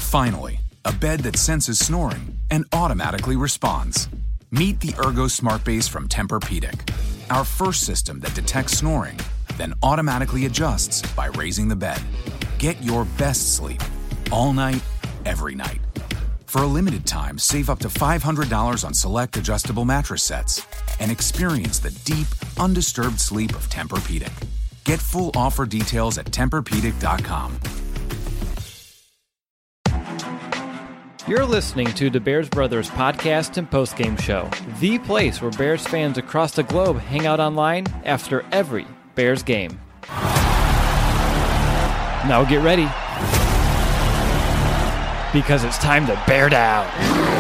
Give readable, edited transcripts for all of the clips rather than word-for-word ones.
Finally, a bed that senses snoring and automatically responds. Meet the Ergo Smart Base from Tempur-Pedic, our first system that detects snoring, then automatically adjusts by raising the bed. Get your best sleep all night, every night. For a limited time, save up to $500 on select adjustable mattress sets and experience the deep, undisturbed sleep of Tempur-Pedic. Get full offer details at TempurPedic.com. You're listening to the Bears Brothers podcast and postgame show, the place where Bears fans across the globe hang out online after every Bears game. Now get ready, because it's time to bear down.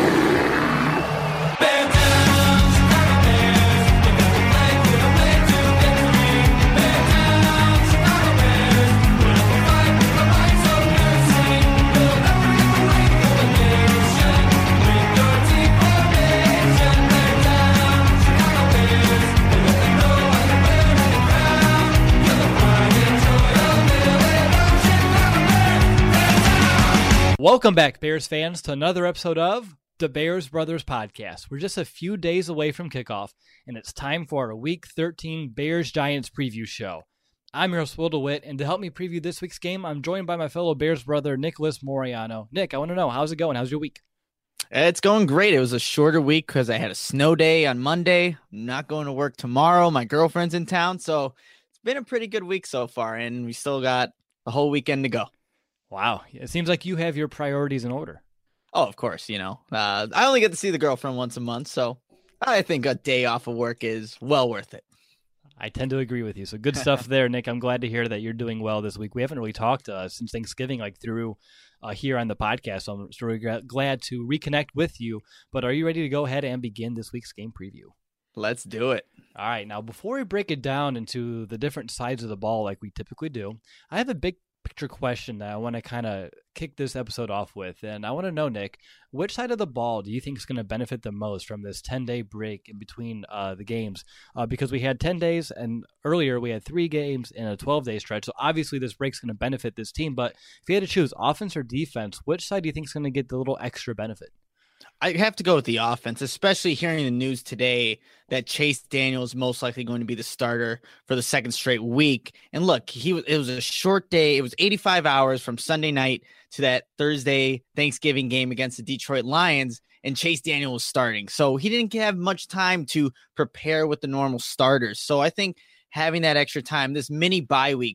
Welcome back, Bears fans, to another episode of the Bears Brothers podcast. We're just a few days away from kickoff, and it's time for our Week 13 Bears-Giants preview show. I'm your host, Will DeWitt, and to help me preview this week's game, I'm joined by my fellow Bears brother, Nicholas Moriano. Nick, I want to know, how's it going? How's your week? It's going great. It was a shorter week because I had a snow day on Monday. I'm not going to work tomorrow. My girlfriend's in town, so it's been a pretty good week so far, and we still got the whole weekend to go. Wow. It seems like you have your priorities in order. Oh, of course, I only get to see the girlfriend once a month, so I think a day off of work is well worth it. I tend to agree with you. So good stuff there, Nick. I'm glad to hear that you're doing well this week. We haven't really talked since Thanksgiving, through here on the podcast, so I'm really glad to reconnect with you. But are you ready to go ahead and begin this week's game preview? Let's do it. All right. Now, before we break it down into the different sides of the ball like we typically do, I have a big picture question that I want to kind of kick this episode off with. And I want to know, Nick, which side of the ball do you think is going to benefit the most from this 10-day break in between the games? Because we had 10 days, and earlier we had 3 games in a 12-day stretch. So obviously this break's going to benefit this team. But if you had to choose offense or defense, which side do you think is going to get the little extra benefit? I have to go with the offense, especially hearing the news today that Chase Daniel is most likely going to be the starter for the second straight week. And look, it was a short day. It was 85 hours from Sunday night to that Thursday Thanksgiving game against the Detroit Lions, and Chase Daniel was starting. So he didn't have much time to prepare with the normal starters. So I think having that extra time, this mini bye week,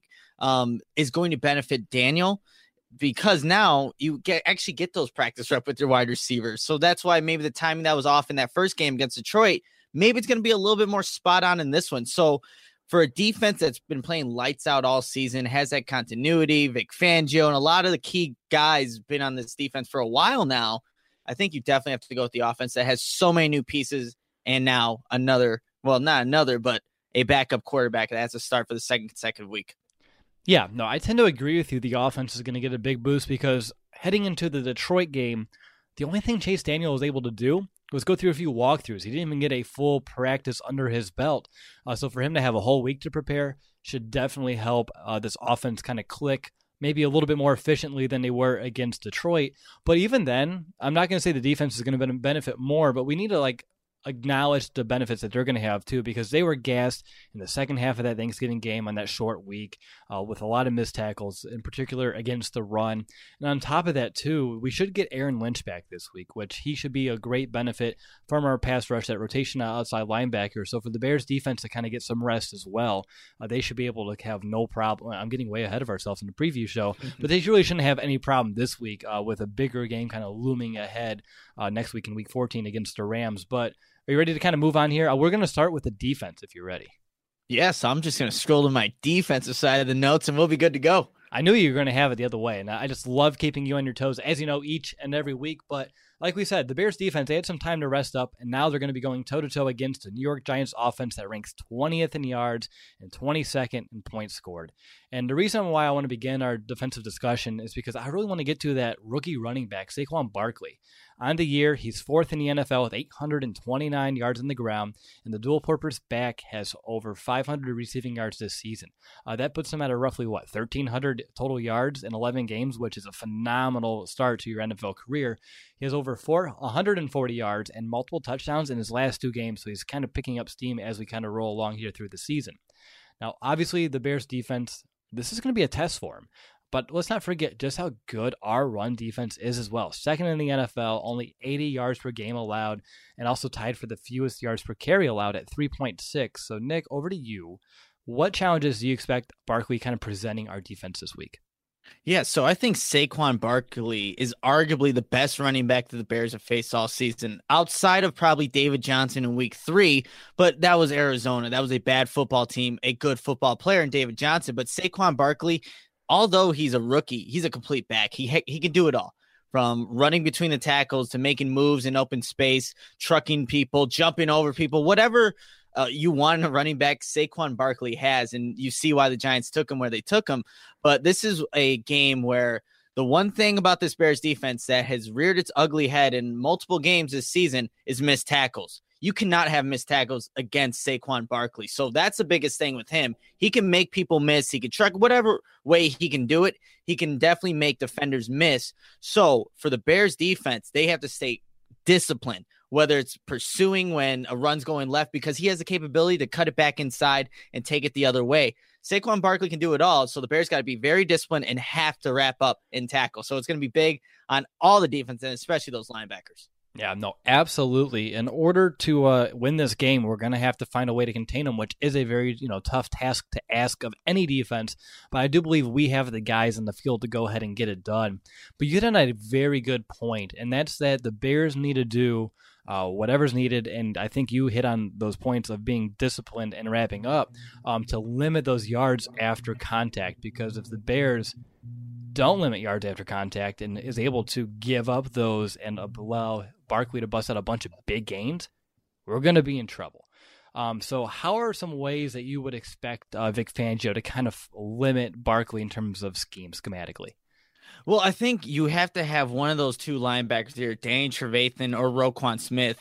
is going to benefit Daniel, because now you actually get those practice reps with your wide receivers. So that's why maybe the timing that was off in that first game against Detroit, maybe it's going to be a little bit more spot on in this one. So for a defense that's been playing lights out all season, has that continuity, Vic Fangio, and a lot of the key guys been on this defense for a while now, I think you definitely have to go with the offense that has so many new pieces, and now but a backup quarterback that has to start for the second consecutive week. Yeah, no, I tend to agree with you. The offense is going to get a big boost because heading into the Detroit game, the only thing Chase Daniel was able to do was go through a few walkthroughs. He didn't even get a full practice under his belt. So for him to have a whole week to prepare should definitely help this offense kind of click maybe a little bit more efficiently than they were against Detroit. But even then, I'm not going to say the defense is going to benefit more, but we need to acknowledge the benefits that they're going to have too, because they were gassed in the second half of that Thanksgiving game on that short week with a lot of missed tackles, in particular against the run. And on top of that too, we should get Aaron Lynch back this week, which he should be a great benefit from our pass rush, that rotation outside linebacker. So for the Bears defense to kind of get some rest as well, they should be able to have no problem. I'm getting way ahead of ourselves in the preview show, but they really shouldn't have any problem this week with a bigger game kind of looming ahead next week in week 14 against the Rams. But are you ready to kind of move on here? We're going to start with the defense if you're ready. Yes, I'm just going to scroll to my defensive side of the notes and we'll be good to go. I knew you were going to have it the other way, and I just love keeping you on your toes, as you know, each and every week. But like we said, the Bears defense, they had some time to rest up, and now they're going to be going toe-to-toe against the New York Giants offense that ranks 20th in yards and 22nd in points scored. And the reason why I want to begin our defensive discussion is because I really want to get to that rookie running back, Saquon Barkley. On the year, he's 4th in the NFL with 829 yards on the ground, and the dual-purpose back has over 500 receiving yards this season. That puts him at a roughly, 1,300 total yards in 11 games, which is a phenomenal start to your NFL career. He has over 140 yards and multiple touchdowns in his last 2 games, so he's kind of picking up steam as we kind of roll along here through the season. Now, obviously, the Bears defense, this is going to be a test for him. But let's not forget just how good our run defense is as well. 2nd in the NFL, only 80 yards per game allowed, and also tied for the fewest yards per carry allowed at 3.6. So, Nick, over to you. What challenges do you expect Barkley kind of presenting our defense this week? Yeah, so I think Saquon Barkley is arguably the best running back that the Bears have faced all season, outside of probably David Johnson in week 3, but that was Arizona. That was a bad football team, a good football player in David Johnson, but Saquon Barkley, although he's a rookie, he's a complete back. He can do it all, from running between the tackles to making moves in open space, trucking people, jumping over people, whatever you want in a running back, Saquon Barkley has, and you see why the Giants took him where they took him. But this is a game where the one thing about this Bears defense that has reared its ugly head in multiple games this season is missed tackles. You cannot have missed tackles against Saquon Barkley. So that's the biggest thing with him. He can make people miss. He can truck whatever way he can do it. He can definitely make defenders miss. So for the Bears defense, they have to stay disciplined, whether it's pursuing when a run's going left, because he has the capability to cut it back inside and take it the other way. Saquon Barkley can do it all. So the Bears got to be very disciplined and have to wrap up and tackle. So it's going to be big on all the defense and especially those linebackers. Yeah, no, absolutely. In order to win this game, we're going to have to find a way to contain them, which is a very tough task to ask of any defense. But I do believe we have the guys in the field to go ahead and get it done. But you hit on a very good point, and that's that the Bears need to do whatever's needed, and I think you hit on those points of being disciplined and wrapping up to limit those yards after contact, because if the Bears don't limit yards after contact and is able to give up those and allow Barkley to bust out a bunch of big gains, we're going to be in trouble. So how are some ways that you would expect Vic Fangio to kind of limit Barkley in terms of schematically? Well, I think you have to have one of those two linebackers here, Danny Trevathan or Roquan Smith,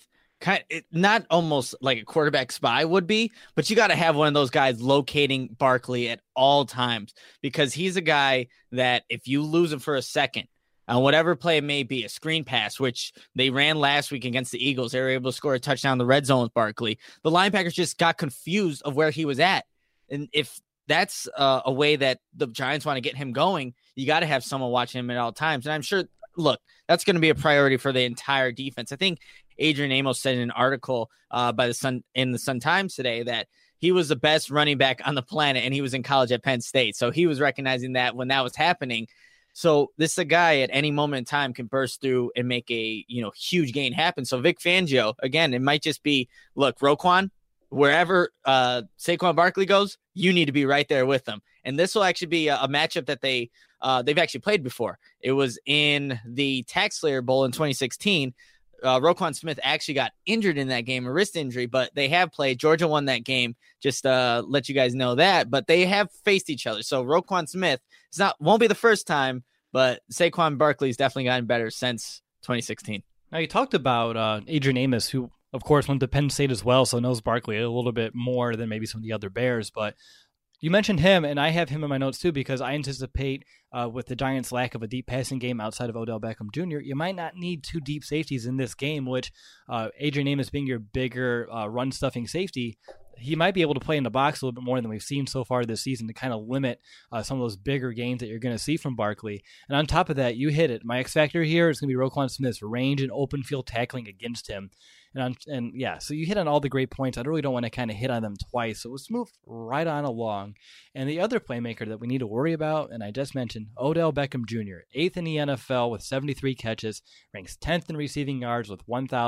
not almost like a quarterback spy would be, but you got to have one of those guys locating Barkley at all times, because he's a guy that if you lose him for a second on whatever play it may be, a screen pass, which they ran last week against the Eagles, they were able to score a touchdown in the red zone with Barkley. The linebackers just got confused of where he was at. And if that's a way that the Giants want to get him going, you got to have someone watching him at all times. And I'm sure, look, that's going to be a priority for the entire defense. I think Adrian Amos said in an article by the Sun Times today that he was the best running back on the planet, and he was in college at Penn State. So he was recognizing that when that was happening. So this is a guy at any moment in time can burst through and make a huge gain happen. So Vic Fangio, again, it might just be, look, Roquan, wherever Saquon Barkley goes, you need to be right there with them. And this will actually be a matchup that they've actually played before. It was in the Tax Slayer Bowl in 2016. Roquan Smith actually got injured in that game, a wrist injury, but they have played. Georgia won that game. Just let you guys know that. But they have faced each other. So Roquan Smith, won't be the first time, but Saquon Barkley's definitely gotten better since 2016. Now, you talked about Adrian Amos, who, of course, went to Penn State as well, so knows Barkley a little bit more than maybe some of the other Bears. But you mentioned him, and I have him in my notes too, because I anticipate with the Giants' lack of a deep passing game outside of Odell Beckham Jr., you might not need two deep safeties in this game, which Adrian Amos being your bigger run-stuffing safety, he might be able to play in the box a little bit more than we've seen so far this season to kind of limit some of those bigger gains that you're going to see from Barkley. And on top of that, you hit it. My X factor here is going to be Roquan Smith's range and open field tackling against him. And yeah, so you hit on all the great points. I really don't want to kind of hit on them twice. So let's move right on along. And the other playmaker that we need to worry about, and I just mentioned, Odell Beckham Jr., 8th in the NFL with 73 catches, ranks 10th in receiving yards with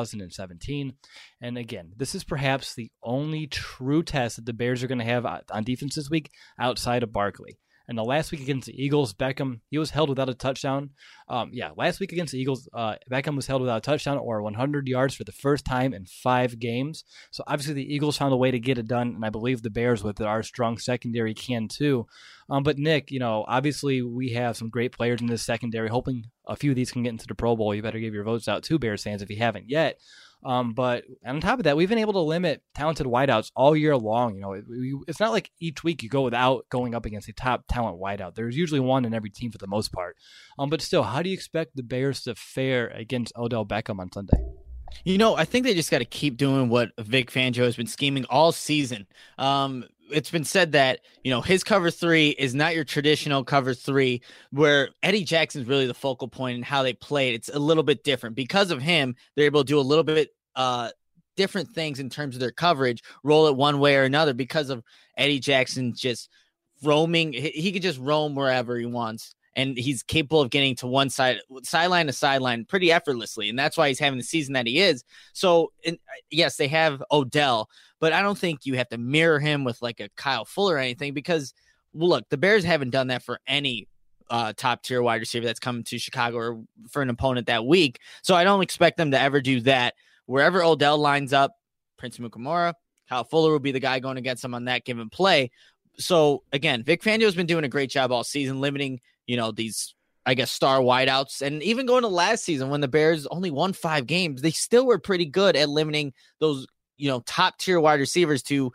1,017. And again, this is perhaps the only true test that the Bears are going to have on defense this week outside of Barkley. And the last week against the Eagles, Beckham, he was held without a touchdown. Last week against the Eagles, Beckham was held without a touchdown or 100 yards for the first time in 5 games. So obviously the Eagles found a way to get it done, and I believe the Bears with our strong secondary can too. But Nick, obviously we have some great players in this secondary. Hoping a few of these can get into the Pro Bowl. You better give your votes out to Bears fans if you haven't yet. But on top of that, we've been able to limit talented wideouts all year long. It's not like each week you go without going up against a top talent wideout. There's usually one in every team for the most part. But still, how do you expect the Bears to fare against Odell Beckham on Sunday? I think they just got to keep doing what Vic Fangio has been scheming all season. It's been said that, his cover 3 is not your traditional cover 3 where Eddie Jackson's really the focal point in how they play it. It's a little bit different. Because of him, they're able to do a little bit different things in terms of their coverage, roll it one way or another because of Eddie Jackson just roaming. He could just roam wherever he wants. And he's capable of getting to one sideline to sideline pretty effortlessly. And that's why he's having the season that he is. So, yes, they have Odell, but I don't think you have to mirror him with like a Kyle Fuller or anything because, look, the Bears haven't done that for any top-tier wide receiver that's coming to Chicago or for an opponent that week. So I don't expect them to ever do that. Wherever Odell lines up, Prince Amukamara, Kyle Fuller will be the guy going against him on that given play. So, again, Vic Fangio's been doing a great job all season limiting these, I guess, star wideouts. And even going to last season when the Bears only won 5 games, they still were pretty good at limiting those, top tier wide receivers to,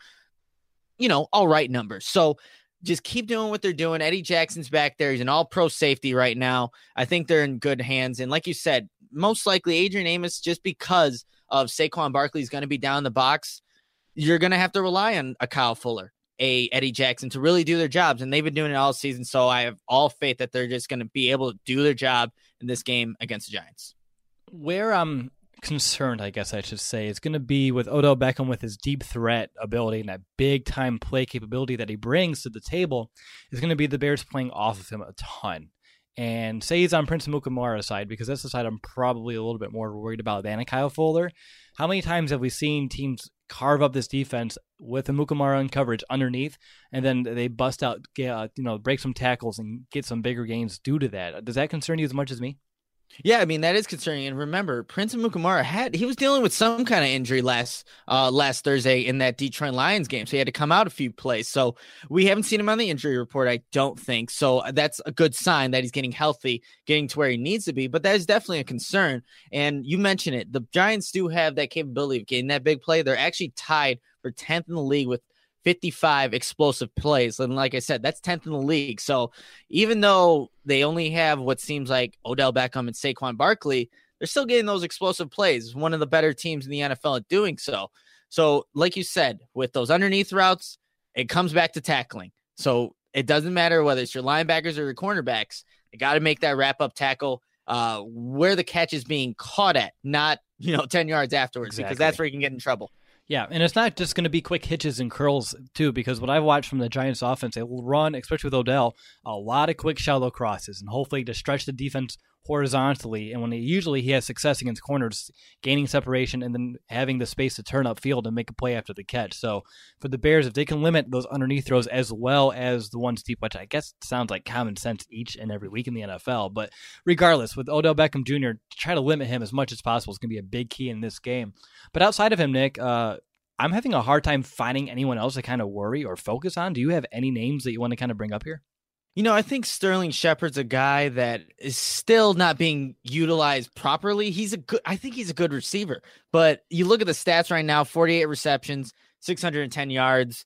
all right numbers. So just keep doing what they're doing. Eddie Jackson's back there. He's an all-pro safety right now. I think they're in good hands. And like you said, most likely Adrian Amos, just because of Saquon Barkley is going to be down the box, you're going to have to rely on a Kyle Fuller, a Eddie Jackson to really do their jobs. And they've been doing it all season. So I have all faith that they're just going to be able to do their job in this game against the Giants. Where I'm concerned, I guess I should say, is going to be with Odell Beckham with his deep threat ability and that big time play capability that he brings to the table is going to be the Bears playing off of him a ton. And say he's on Prince Amukamara's side, because that's the side I'm probably a little bit more worried about than a Kyle Fuller. How many times have we seen teams carve up this defense with Amukamara in coverage underneath, and then they bust out, break some tackles and get some bigger gains due to that? Does that concern you as much as me? Yeah, I mean, that is concerning. And remember, Prince Amukamara he was dealing with some kind of injury last Thursday in that Detroit Lions game. So he had to come out a few plays. So we haven't seen him on the injury report, I don't think. So that's a good sign that he's getting healthy, getting to where he needs to be. But that is definitely a concern. And you mentioned it. The Giants do have that capability of getting that big play. They're actually tied for 10th in the league with 55 explosive plays. And like I said, that's 10th in the league. So even though they only have what seems like Odell Beckham and Saquon Barkley, they're still getting those explosive plays. One of the better teams in the NFL at doing so. So like you said, with those underneath routes, it comes back to tackling. So it doesn't matter whether it's your linebackers or your cornerbacks. You got to make that wrap-up tackle where the catch is being caught at, not 10 yards afterwards, because that's where you can get in trouble. Yeah, and it's not just going to be quick hitches and curls, too, because what I've watched from the Giants offense, they will run, especially with Odell, a lot of quick shallow crosses, and hopefully to stretch the defense horizontally. And when he has success against corners, gaining separation and then having the space to turn upfield and make a play after the catch. So for the Bears, if they can limit those underneath throws as well as the ones deep, which I guess sounds like common sense each and every week in the NFL, but regardless, with Odell Beckham Jr., to try to limit him as much as possible is going to be a big key in this game. But outside of him, Nick, I'm having a hard time finding anyone else to kind of worry or focus on. Do you have any names that you want to kind of bring up here? I think Sterling Shepard's a guy that is still not being utilized properly. I think he's a good receiver, but you look at the stats right now, 48 receptions, 610 yards,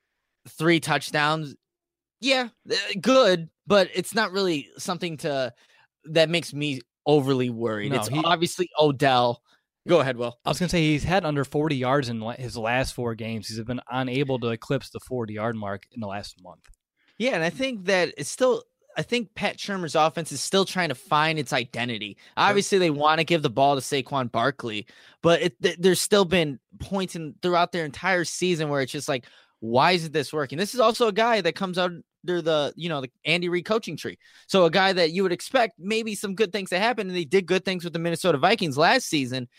3 touchdowns. Yeah, good, but it's not really something that makes me overly worried. No, it's obviously Odell. Go ahead, Will. I was going to say he's had under 40 yards in his last 4 games. He's been unable to eclipse the 40-yard mark in the last month. Yeah, and I think that I think Pat Shurmur's offense is still trying to find its identity. Obviously, they want to give the ball to Saquon Barkley, but there's still been points throughout their entire season where it's just like, why isn't this working? This is also a guy that comes out under the Andy Reid coaching tree. So a guy that you would expect maybe some good things to happen, and they did good things with the Minnesota Vikings last season.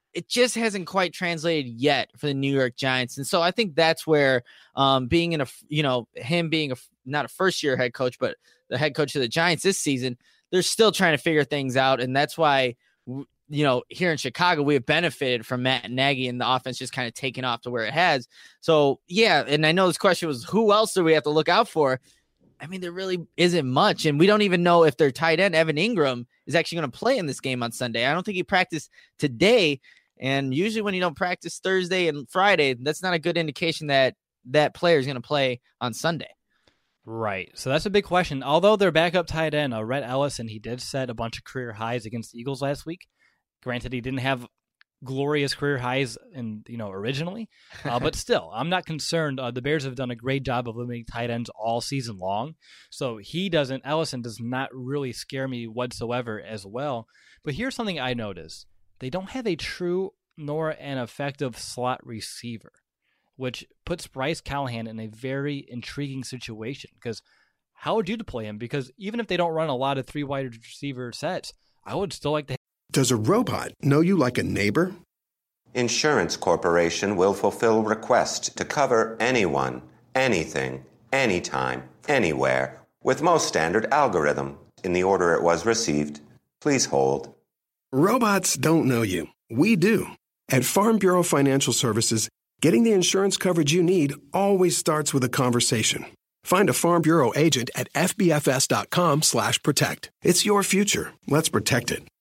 it just hasn't quite translated yet for the New York Giants. And so I think that's where being in him being not a first year head coach, but the head coach of the Giants this season, they're still trying to figure things out. And that's why, here in Chicago, we have benefited from Matt Nagy and the offense just kind of taking off to where it has. So, yeah, and I know this question was, who else do we have to look out for? I mean, there really isn't much, and we don't even know if their tight end, Evan Ingram, is actually going to play in this game on Sunday. I don't think he practiced today, and usually when you don't practice Thursday and Friday, that's not a good indication that that player is going to play on Sunday. Right. So that's a big question. Although their backup tight end, Rhett Ellison, he did set a bunch of career highs against the Eagles last week. Granted, he didn't have glorious career highs originally, but still, I'm not concerned. The Bears have done a great job of limiting tight ends all season long. So Ellison does not really scare me whatsoever as well. But here's something I noticed. They don't have a true nor an effective slot receiver, which puts Bryce Callahan in a very intriguing situation, because how would you deploy him? Because even if they don't run a lot of 3 wide receiver sets, I would still like to. Does a robot know you like a neighbor? Insurance Corporation will fulfill requests to cover anyone, anything, anytime, anywhere, with most standard algorithm in the order it was received. Please hold. Robots don't know you. We do. At Farm Bureau Financial Services, getting the insurance coverage you need always starts with a conversation. Find a Farm Bureau agent at fbfs.com/protect. It's your future. Let's protect it.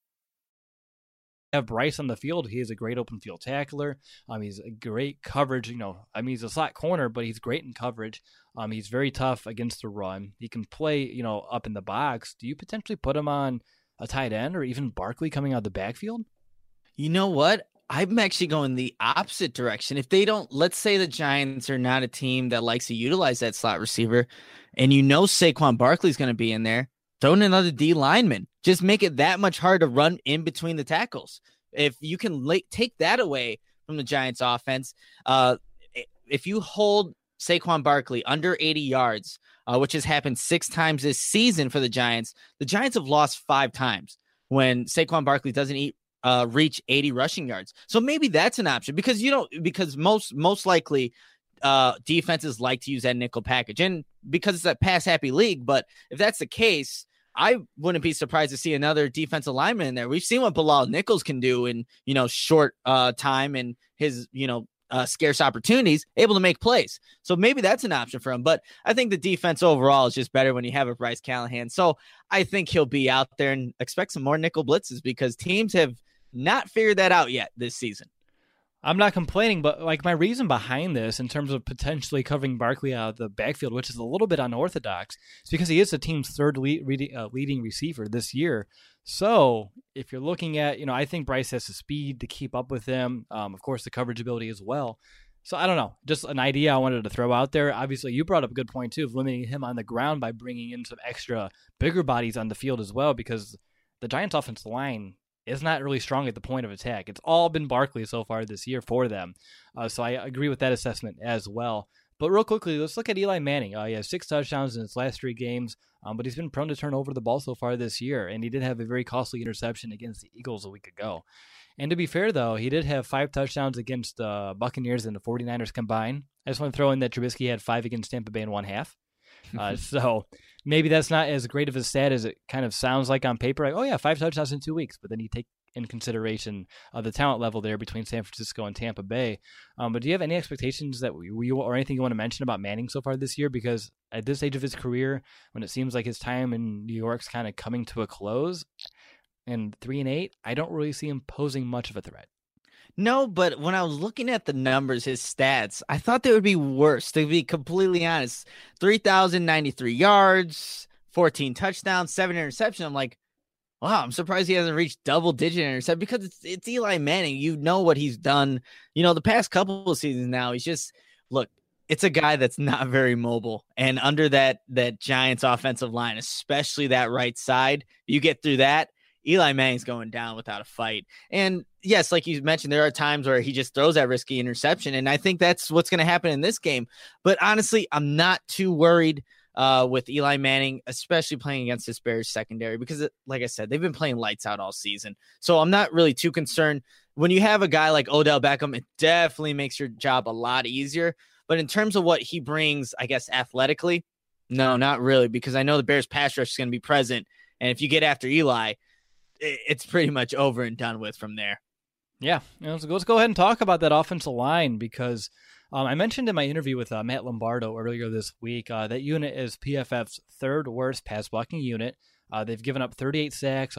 Have Bryce on the field. He is a great open field tackler. He's a great coverage. He's a slot corner, but he's great in coverage. He's very tough against the run. He can play, up in the box. Do you potentially put him on a tight end or even Barkley coming out of the backfield? You know what? I'm actually going the opposite direction. If they don't, let's say the Giants are not a team that likes to utilize that slot receiver, and Saquon Barkley's going to be in there, throw in another D lineman. Just make it that much harder to run in between the tackles. If you can take that away from the Giants offense, if you hold Saquon Barkley under 80 yards, which has happened 6 times this season for the Giants have lost 5 times when Saquon Barkley doesn't reach 80 rushing yards. So maybe that's an option, because most likely defenses like to use that nickel package, and because it's a pass happy league. But if that's the case, I wouldn't be surprised to see another defensive lineman in there. We've seen what Bilal Nichols can do in, short time and his, scarce opportunities, able to make plays. So maybe that's an option for him. But I think the defense overall is just better when you have a Bryce Callahan. So I think he'll be out there, and expect some more nickel blitzes, because teams have not figured that out yet this season. I'm not complaining, but my reason behind this in terms of potentially covering Barkley out of the backfield, which is a little bit unorthodox, is because he is the team's third leading receiver this year. So if you're looking at, I think Bryce has the speed to keep up with him. Of course, the coverage ability as well. So I don't know, just an idea I wanted to throw out there. Obviously, you brought up a good point too of limiting him on the ground by bringing in some extra bigger bodies on the field as well, because the Giants' offensive line is not really strong at the point of attack. It's all been Barkley so far this year for them. So I agree with that assessment as well. But real quickly, let's look at Eli Manning. He has 6 touchdowns in his last 3 games, but he's been prone to turn over the ball so far this year, and he did have a very costly interception against the Eagles a week ago. And to be fair, though, he did have 5 touchdowns against the Buccaneers and the 49ers combined. I just want to throw in that Trubisky had 5 against Tampa Bay in 1/2. So maybe that's not as great of a stat as it kind of sounds like on paper. 5 touchdowns in 2 weeks. But then you take in consideration the talent level there between San Francisco and Tampa Bay. But do you have any expectations that or anything you want to mention about Manning so far this year? Because at this stage of his career, when it seems like his time in New York's kind of coming to a close, and 3-8, I don't really see him posing much of a threat. No, but when I was looking at the numbers, his stats, I thought they would be worse, to be completely honest. 3,093 yards, 14 touchdowns, 7 interceptions. I'm like, wow, I'm surprised he hasn't reached double-digit interception, because it's Eli Manning. You know what he's done. The past couple of seasons now, he's just, look, it's a guy that's not very mobile. And under that Giants offensive line, especially that right side, you get through that, Eli Manning's going down without a fight. And yes, like you mentioned, there are times where he just throws that risky interception, and I think that's what's going to happen in this game. But honestly, I'm not too worried with Eli Manning, especially playing against this Bears secondary, because like I said, they've been playing lights out all season. So I'm not really too concerned. When you have a guy like Odell Beckham, it definitely makes your job a lot easier. But in terms of what he brings, I guess, athletically, no, not really, because I know the Bears pass rush is going to be present. And if you get after Eli, it's pretty much over and done with from there. Yeah, let's go ahead and talk about that offensive line, because I mentioned in my interview with Matt Lombardo earlier this week that unit is PFF's third worst pass blocking unit. They've given up 38 sacks,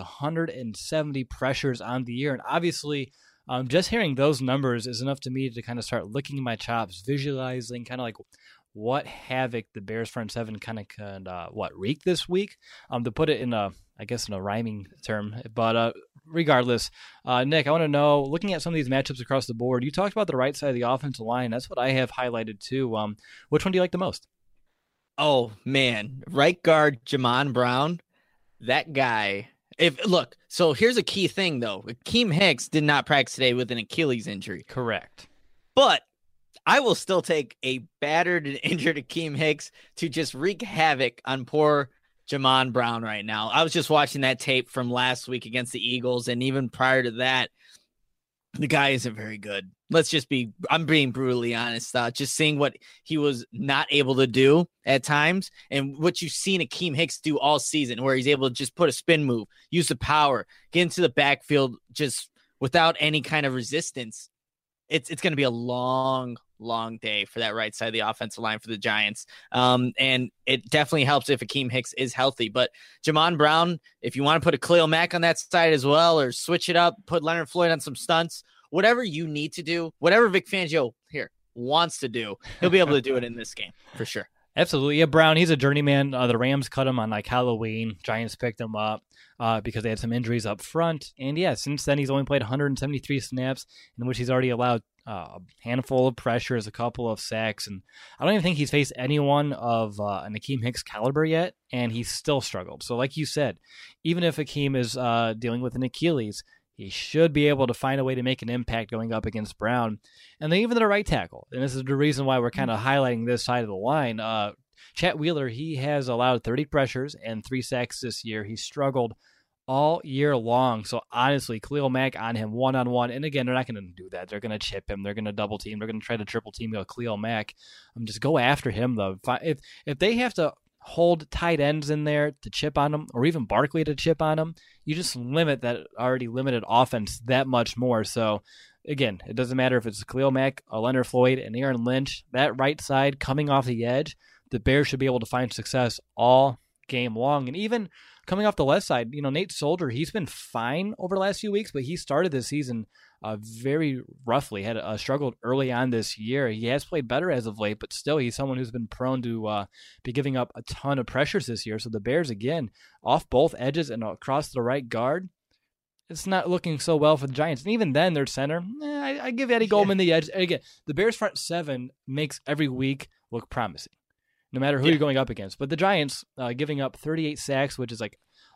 170 pressures on the year, and obviously just hearing those numbers is enough to me to kind of start licking my chops, visualizing kind of like what havoc the Bears front seven kind of could wreak this week. To put it in a rhyming term, but regardless, Nick, I want to know, looking at some of these matchups across the board, you talked about the right side of the offensive line. That's what I have highlighted too. Which one do you like the most? Oh man, right guard Jamon Brown, that guy. So here's a key thing though. Akeem Hicks did not practice today with an Achilles injury. Correct. But I will still take a battered and injured Akeem Hicks to just wreak havoc on poor Jamon Brown right now. I was just watching that tape from last week against the Eagles, and even prior to that, the guy isn't very good. I'm being brutally honest. Just seeing what he was not able to do at times, and what you've seen Akeem Hicks do all season, where he's able to just put a spin move, use the power, get into the backfield just without any kind of resistance. It's going to be a long day for that right side of the offensive line for the Giants. And it definitely helps if Akeem Hicks is healthy. But Jamon Brown, if you want to put a Khalil Mack on that side as well, or switch it up, put Leonard Floyd on some stunts, whatever you need to do, whatever Vic Fangio here wants to do, he'll be able to do it in this game for sure. Absolutely. Yeah, Brown, he's a journeyman. The Rams cut him on like Halloween. Giants picked him up because they had some injuries up front. And yeah, since then he's only played 173 snaps, in which he's already allowed a handful of pressures, a couple of sacks. And I don't even think he's faced anyone of an Akeem Hicks caliber yet, and he's still struggled. So like you said, even if Akeem is dealing with an Achilles, he should be able to find a way to make an impact going up against Brown. And then even the right tackle, and this is the reason why we're kind of highlighting this side of the line, Chet Wheeler, he has allowed 30 pressures and 3 sacks this year. He's struggled all year long. So honestly, Khalil Mack on him one-on-one. And again, they're not going to do that. They're going to chip him. They're going to double team. They're going to try to triple team Khalil Mack. Just go after him, though. If they have to hold tight ends in there to chip on them, or even Barkley to chip on them, you just limit that already limited offense that much more. So again, it doesn't matter if it's Khalil Mack, Leonard Floyd, and Aaron Lynch. That right side coming off the edge, the Bears should be able to find success all game long. And even coming off the left side, Nate Soldier, he's been fine over the last few weeks, but he started this season very roughly, had struggled early on this year. He has played better as of late, but still he's someone who's been prone to be giving up a ton of pressures this year. So the Bears, again, off both edges and across the right guard, it's not looking so well for the Giants. And even then, their center, I give Eddie Goldman the edge. And again, the Bears front seven makes every week look promising, no matter who you're going up against. But the Giants giving up 38 sacks, which is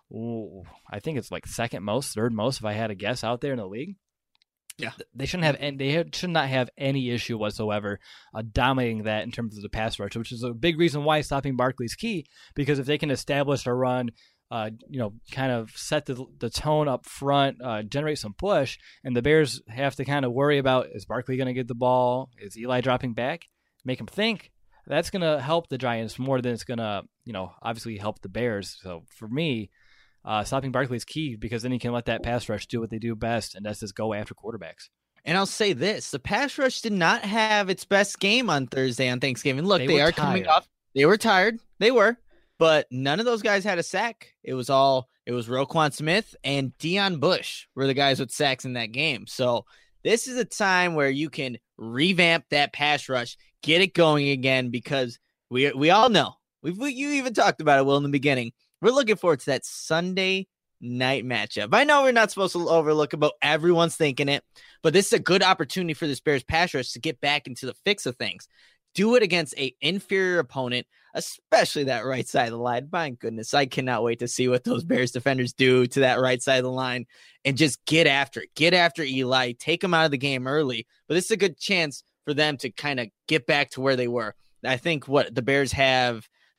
I think it's like second most, third most, if I had a guess out there in the league. Yeah, they should not have any issue whatsoever dominating that in terms of the pass rush, which is a big reason why stopping Barkley's key. Because if they can establish a run, kind of set the tone up front, generate some push, and the Bears have to kind of worry about, is Barkley going to get the ball? Is Eli dropping back? Make them think. That's going to help the Giants more than it's going to, obviously help the Bears. So for me, stopping Barkley is key, because then you can let that pass rush do what they do best, and that's just go after quarterbacks. And I'll say this, the pass rush did not have its best game on Thursday on Thanksgiving. Look, they are coming off. They were tired. They were. But none of those guys had a sack. It was Roquan Smith and Deion Bush were the guys with sacks in that game. So this is a time where you can revamp that pass rush, get it going again, because we all know. You even talked about it, Will, in the beginning. We're looking forward to that Sunday night matchup. I know we're not supposed to overlook it, but everyone's thinking it. But this is a good opportunity for this Bears pass rush to get back into the fix of things. Do it against an inferior opponent, especially that right side of the line. My goodness, I cannot wait to see what those Bears defenders do to that right side of the line, and just get after it. Get after Eli. Take him out of the game early. But this is a good chance for them to kind of get back to where they were. I think the Bears have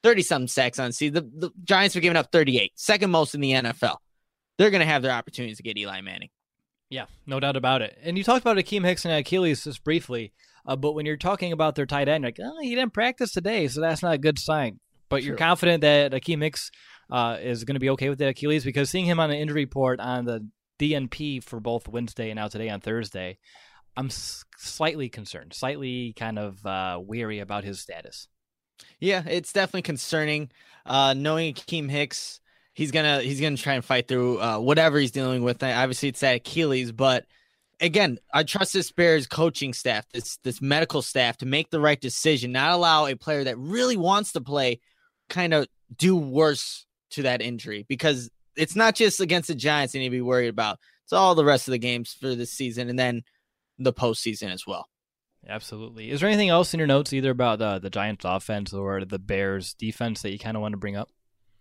30-something sacks on the season. The Giants are giving up 38, second most in the NFL. They're going to have their opportunities to get Eli Manning. Yeah, no doubt about it. And you talked about Akeem Hicks and Achilles just briefly, but when you're talking about their tight end, you're like, oh, he didn't practice today, so that's not a good sign. But you're confident that Akeem Hicks is going to be okay with the Achilles, because seeing him on the injury report on the DNP for both Wednesday and now today on Thursday, I'm slightly concerned, slightly kind of weary about his status. Yeah, it's definitely concerning. Knowing Akeem Hicks, he's gonna try and fight through whatever he's dealing with. Obviously, it's that Achilles, but again, I trust this Bears coaching staff, this medical staff, to make the right decision, not allow a player that really wants to play kind of do worse to that injury, because it's not just against the Giants they need to be worried about. It's all the rest of the games for this season and then the postseason as well. Absolutely. Is there anything else in your notes, either about the Giants offense or the Bears defense, that you kind of want to bring up?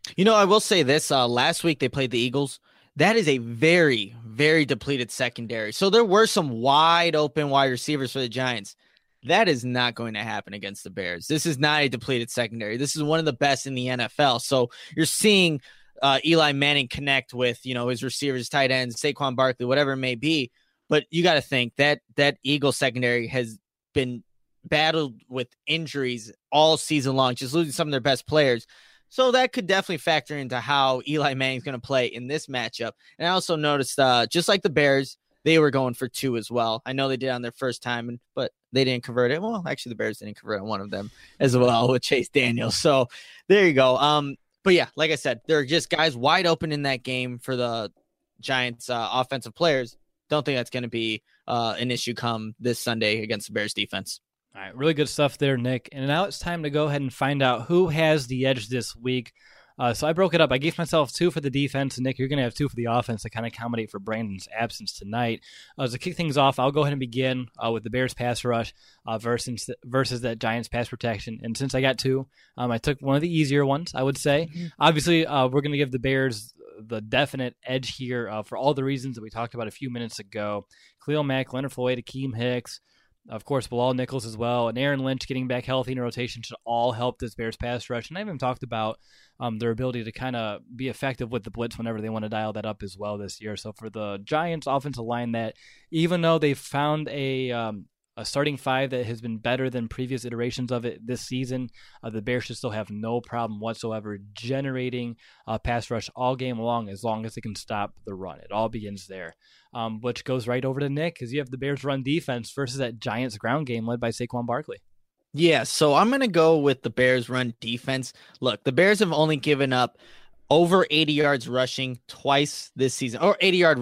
I will say this. Last week they played the Eagles. That is a very, very depleted secondary. So there were some wide open wide receivers for the Giants. That is not going to happen against the Bears. This is not a depleted secondary. This is one of the best in the NFL. So you're seeing Eli Manning connect with, his receivers, tight ends, Saquon Barkley, whatever it may be. But you got to think that Eagles secondary has been battled with injuries all season long, just losing some of their best players. So that could definitely factor into how Eli Manning's going to play in this matchup. And I also noticed, just like the Bears, they were going for 2 as well. I know they did on their first time, but they didn't convert it. Well, actually, the Bears didn't convert on one of them as well with Chase Daniels. So there you go. But yeah, like I said, there are just guys wide open in that game for the Giants offensive players. Don't think that's going to be an issue come this Sunday against the Bears defense. All right, really good stuff there, Nick. And now it's time to go ahead and find out who has the edge this week. So I broke it up. I gave myself 2 for the defense, and Nick, you're going to have 2 for the offense to kind of accommodate for Brandon's absence tonight. To kick things off, I'll go ahead and begin with the Bears pass rush versus that Giants pass protection. And since I got 2, I took one of the easier ones, I would say. Mm-hmm. Obviously, we're going to give the Bears the definite edge here for all the reasons that we talked about a few minutes ago. Khalil Mack, Leonard Floyd, Akeem Hicks, of course, Bilal Nichols as well, and Aaron Lynch getting back healthy in rotation should all help this Bears pass rush. And I even talked about their ability to kind of be effective with the blitz whenever they want to dial that up as well this year. So for the Giants offensive line, that even though they've found a starting 5 that has been better than previous iterations of it this season, the Bears should still have no problem whatsoever generating a pass rush all game long as they can stop the run. It all begins there, which goes right over to Nick, because you have the Bears run defense versus that Giants ground game led by Saquon Barkley. Yeah, so I'm going to go with the Bears run defense. Look, the Bears have only given up over 80 yards rushing twice this season, or 80-yard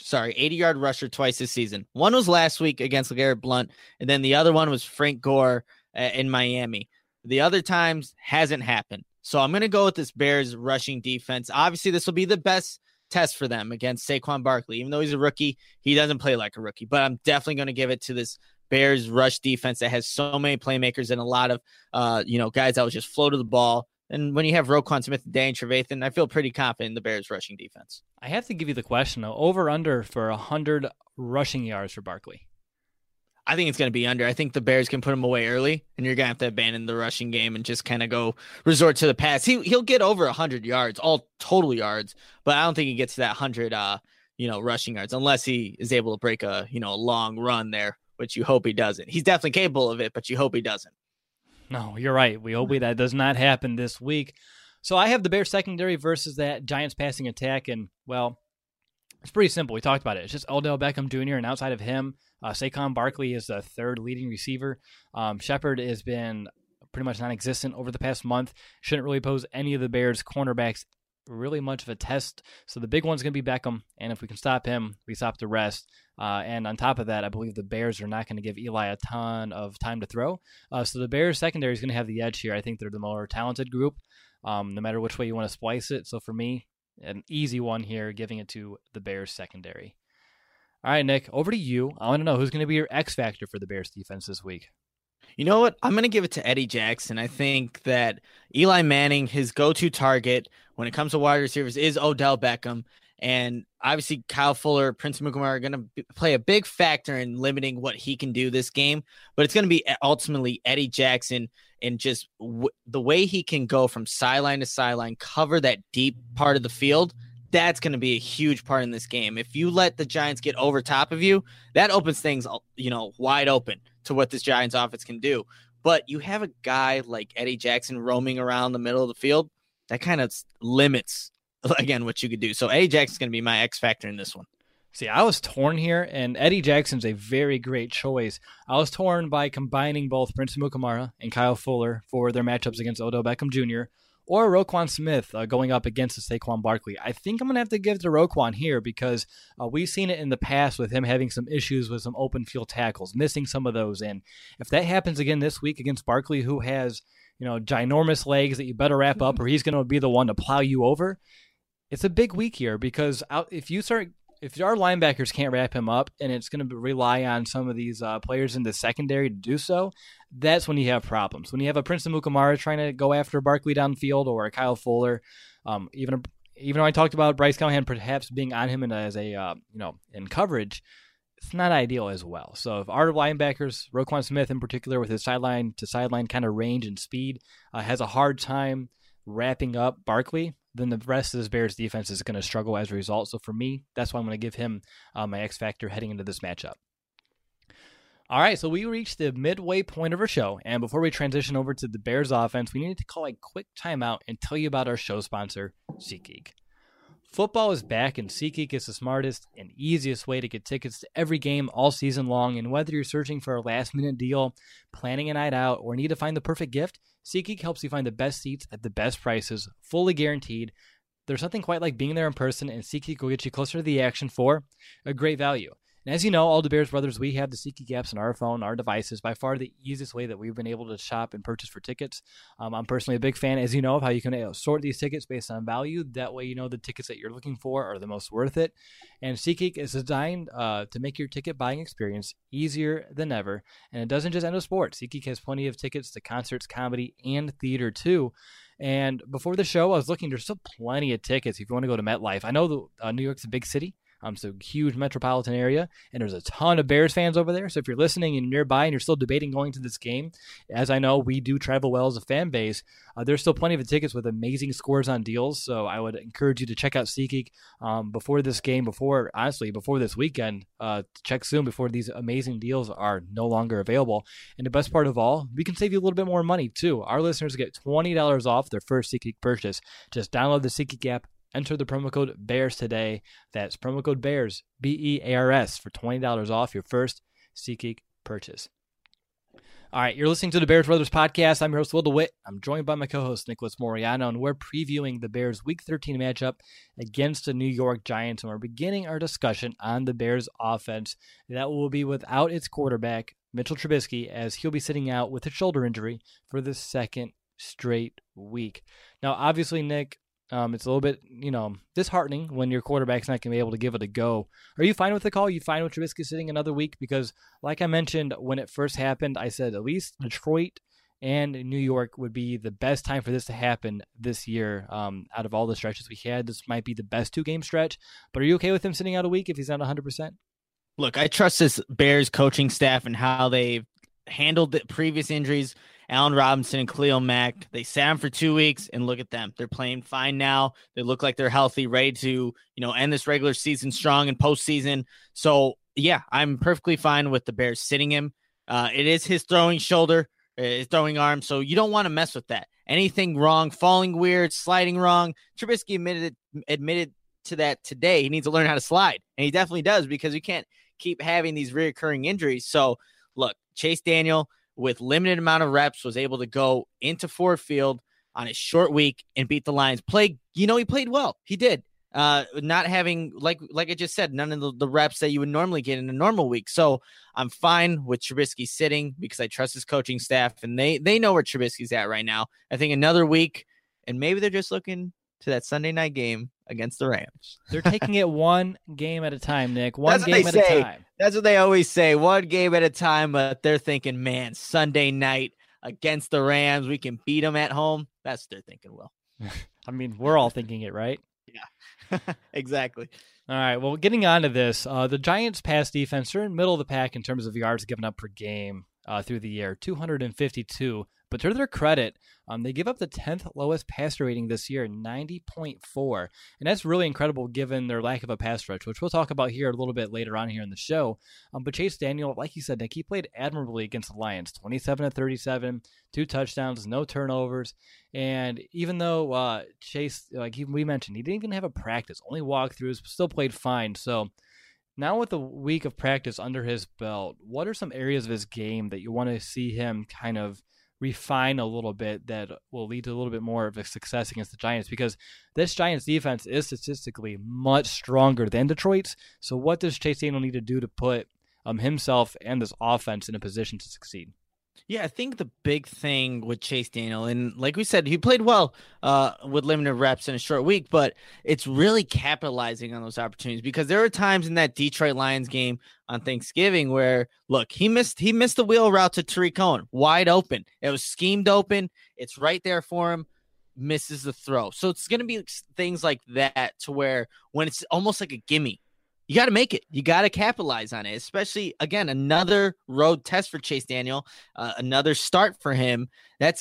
rusher twice this season. One was last week against LeGarrette Blount, and then the other one was Frank Gore in Miami. The other times hasn't happened. So I'm going to go with this Bears rushing defense. Obviously, this will be the best test for them against Saquon Barkley. Even though he's a rookie, he doesn't play like a rookie, but I'm definitely going to give it to this Bears rush defense that has so many playmakers and a lot of, guys that will just flow to the ball. And when you have Roquan Smith and Danny Trevathan, I feel pretty confident in the Bears rushing defense. I have to give you the question, though. Over under for 100 rushing yards for Barkley. I think it's going to be under. I think the Bears can put him away early, and you're going to have to abandon the rushing game and just kind of go resort to the pass. He'll get over 100 yards, all total yards, but I don't think he gets to that 100, rushing yards unless he is able to break a long run there, which you hope he doesn't. He's definitely capable of it, but you hope he doesn't. No, you're right. We hope that does not happen this week. So I have the Bears secondary versus that Giants passing attack, and, well, it's pretty simple. We talked about it. It's just Odell Beckham Jr., and outside of him, Saquon Barkley is the third leading receiver. Shepard has been pretty much non-existent over the past month. Shouldn't really pose any of the Bears' cornerbacks really much of a test. So the big one's going to be Beckham, and if we can stop him, we stop the rest. And on top of that, I believe the Bears are not going to give Eli a ton of time to throw. So the Bears secondary is going to have the edge here. I think they're the more talented group, no matter which way you want to splice it. So for me, an easy one here, giving it to the Bears secondary. All right, Nick, over to you. I want to know who's going to be your X factor for the Bears defense this week. You know what? I'm going to give it to Eddie Jackson. I think that Eli Manning, his go-to target when it comes to wide receivers is Odell Beckham. And obviously Kyle Fuller, Prince Mukamara are going to play a big factor in limiting what he can do this game. But it's going to be ultimately Eddie Jackson and just the way he can go from sideline to sideline, cover that deep part of the field, that's going to be a huge part in this game. If you let the Giants get over top of you, that opens things, wide open to what this Giants offense can do. But you have a guy like Eddie Jackson roaming around the middle of the field, that kind of limits, again, what you could do. So Eddie Jackson's going to be my X factor in this one. See, I was torn here, and Eddie Jackson's a very great choice. I was torn by combining both Prince Amukamara and Kyle Fuller for their matchups against Odell Beckham Jr., or Roquan Smith going up against the Saquon Barkley. I think I'm going to have to give it to Roquan here because we've seen it in the past with him having some issues with some open field tackles, missing some of those. And if that happens again this week against Barkley, who has ginormous legs that you better wrap up or he's going to be the one to plow you over, it's a big week here because if our linebackers can't wrap him up and it's going to rely on some of these players in the secondary to do so, that's when you have problems. When you have a Prince Amukamara trying to go after Barkley downfield or a Kyle Fuller, even though I talked about Bryce Callahan perhaps being on him as a in coverage, it's not ideal as well. So if our linebackers, Roquan Smith in particular, with his sideline to sideline kind of range and speed, has a hard time wrapping up Barkley, then the rest of this Bears defense is going to struggle as a result. So for me, that's why I'm going to give him my X factor heading into this matchup. All right, so we reached the midway point of our show, and before we transition over to the Bears offense, we need to call a quick timeout and tell you about our show sponsor, SeatGeek. Football is back, and SeatGeek is the smartest and easiest way to get tickets to every game all season long. And whether you're searching for a last-minute deal, planning a night out, or need to find the perfect gift, SeatGeek helps you find the best seats at the best prices, fully guaranteed. There's nothing quite like being there in person, and SeatGeek will get you closer to the action for a great value. And as you know, all the Bears brothers, we have the SeatGeek apps on our phone, our devices, by far the easiest way that we've been able to shop and purchase for tickets. I'm personally a big fan, as you know, of how you can sort these tickets based on value. That way you know the tickets that you're looking for are the most worth it. And SeatGeek is designed to make your ticket buying experience easier than ever. And it doesn't just end with sports. SeatGeek has plenty of tickets to concerts, comedy, and theater too. And before the show, I was looking, there's still plenty of tickets if you want to go to MetLife. I know New York's a big city. So huge metropolitan area, and there's a ton of Bears fans over there. So if you're listening and nearby and you're still debating going to this game, as I know we do travel well as a fan base, there's still plenty of tickets with amazing scores on deals. So I would encourage you to check out SeatGeek before this game, before this weekend. Check soon before these amazing deals are no longer available. And the best part of all, we can save you a little bit more money too. Our listeners get $20 off their first SeatGeek purchase. Just download the SeatGeek app. Enter the promo code BEARS today. That's promo code BEARS, BEARS, for $20 off your first SeatGeek purchase. All right, you're listening to the Bears Brothers podcast. I'm your host, Will DeWitt. I'm joined by my co-host, Nicholas Moriano, and we're previewing the Bears' Week 13 matchup against the New York Giants, and we're beginning our discussion on the Bears' offense. That will be without its quarterback, Mitchell Trubisky, as he'll be sitting out with a shoulder injury for the second straight week. Now, obviously, Nick, it's a little bit, disheartening when your quarterback's not going to be able to give it a go. Are you fine with the call? You fine with Trubisky sitting another week? Because like I mentioned, when it first happened, I said at least Detroit and New York would be the best time for this to happen this year. Out of all the stretches we had, this might be the best 2-game stretch. But are you okay with him sitting out a week if he's not 100%? Look, I trust this Bears coaching staff and how they've handled the previous injuries. Allen Robinson and Khalil Mack, they sat him for 2 weeks, and look at them. They're playing fine now. They look like they're healthy, ready to, end this regular season strong and postseason. So, yeah, I'm perfectly fine with the Bears sitting him. It is his throwing shoulder, his throwing arm, so you don't want to mess with that. Anything wrong, falling weird, sliding wrong. Trubisky admitted to that today. He needs to learn how to slide, and he definitely does because we can't keep having these reoccurring injuries. So, look, Chase Daniel, with limited amount of reps, was able to go into Ford Field on his short week and beat the Lions. He played well. He did. Not having, like I just said, none of the reps that you would normally get in a normal week. So I'm fine with Trubisky sitting because I trust his coaching staff, and they know where Trubisky's at right now. I think another week, and maybe they're just looking to that Sunday night game against the Rams. They're taking it one game at a time, Nick. One game at a time. That's what they always say, one game at a time, but they're thinking, man, Sunday night against the Rams, we can beat them at home. That's what they're thinking, Will. I mean, we're all thinking it, right? Yeah, exactly. All right, well, getting on to this, the Giants' pass defense are in the middle of the pack in terms of yards given up per game through the year, 252, But to their credit, they give up the 10th lowest passer rating this year, 90.4. And that's really incredible given their lack of a pass rush, which we'll talk about here a little bit later on here in the show. But Chase Daniel, like you said, Nick, he played admirably against the Lions, 27 of 37, 2 touchdowns, no turnovers. And even though Chase, we mentioned, he didn't even have a practice, only walkthroughs, still played fine. So now with a week of practice under his belt, what are some areas of his game that you want to see him kind of refine a little bit that will lead to a little bit more of a success against the Giants? Because this Giants defense is statistically much stronger than Detroit's. So what does Chase Daniel need to do to put himself and this offense in a position to succeed? Yeah, I think the big thing with Chase Daniel, and like we said, he played well with limited reps in a short week, but it's really capitalizing on those opportunities, because there were times in that Detroit Lions game on Thanksgiving where, look, he missed the wheel route to Tariq Cohen, wide open. It was schemed open. It's right there for him. Misses the throw. So it's going to be things like that, to where when it's almost like a gimme, you got to make it. You got to capitalize on it, especially, again, another road test for Chase Daniel, another start for him. That's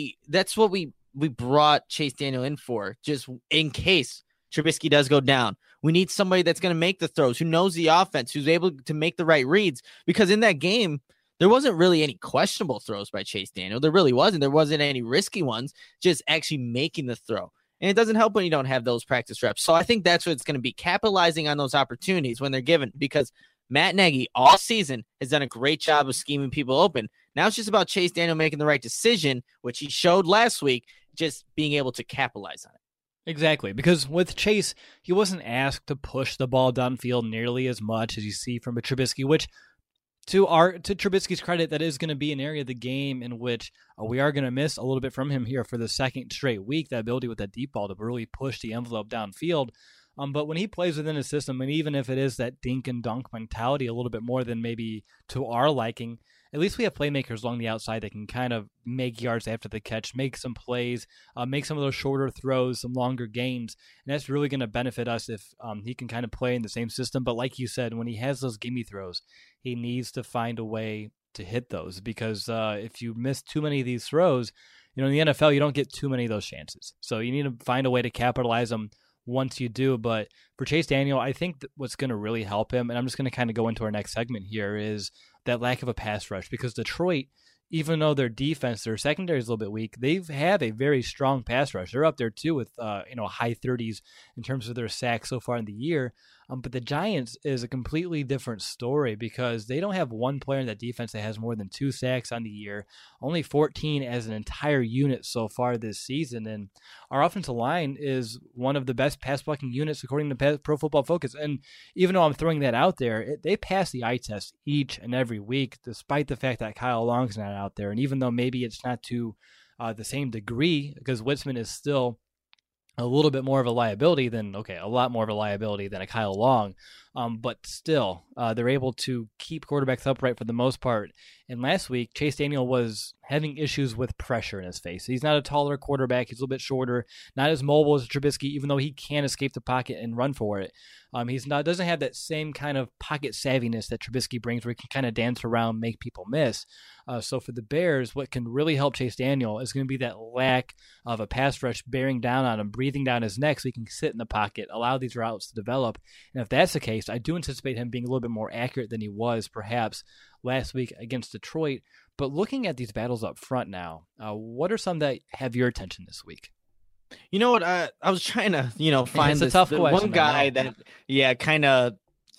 what we brought Chase Daniel in for, just in case Trubisky does go down. We need somebody that's going to make the throws, who knows the offense, who's able to make the right reads, because in that game, there wasn't really any questionable throws by Chase Daniel. There really wasn't. There wasn't any risky ones, just actually making the throw. And it doesn't help when you don't have those practice reps. So I think that's what it's going to be, capitalizing on those opportunities when they're given, because Matt Nagy all season has done a great job of scheming people open. Now it's just about Chase Daniel making the right decision, which he showed last week, just being able to capitalize on it. Exactly, because with Chase, he wasn't asked to push the ball downfield nearly as much as you see from a Trubisky, which to Trubisky's credit, that is going to be an area of the game in which we are going to miss a little bit from him here for the second straight week, that ability with that deep ball to really push the envelope downfield. But when he plays within his system, and even if it is that dink and dunk mentality a little bit more than maybe to our liking, at least we have playmakers along the outside that can kind of make yards after the catch, make some plays, make some of those shorter throws, some longer gains. And that's really going to benefit us if he can kind of play in the same system. But like you said, when he has those gimme throws, he needs to find a way to hit those, because if you miss too many of these throws, in the NFL, you don't get too many of those chances. So you need to find a way to capitalize them once you do. But for Chase Daniel, I think what's going to really help him, and I'm just going to kind of go into our next segment here, is that lack of a pass rush, because Detroit, even though their defense, their secondary is a little bit weak, they have a very strong pass rush. They're up there too with high 30s in terms of their sacks so far in the year. But the Giants is a completely different story, because they don't have one player in that defense that has more than 2 sacks on the year, only 14 as an entire unit so far this season. And our offensive line is one of the best pass blocking units according to Pro Football Focus. And even though I'm throwing that out there, they pass the eye test each and every week, despite the fact that Kyle Long's not out there. And even though maybe it's not to the same degree, because Witzman is still a little bit more of a liability than, a lot more of a liability than a Kyle Long. But still, they're able to keep quarterbacks upright for the most part. And last week, Chase Daniel was having issues with pressure in his face. He's not a taller quarterback. He's a little bit shorter, not as mobile as Trubisky, even though he can escape the pocket and run for it. Doesn't have that same kind of pocket savviness that Trubisky brings, where he can kind of dance around, make people miss. So for the Bears, what can really help Chase Daniel is going to be that lack of a pass rush bearing down on him, breathing down his neck so he can sit in the pocket, allow these routes to develop. And if that's the case, I do anticipate him being a little bit more accurate than he was perhaps last week against Detroit. But looking at these battles up front now, what are some that have your attention this week? You know what? I was trying to, find a tough question, one guy that, kind of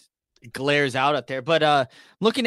glares out there. But look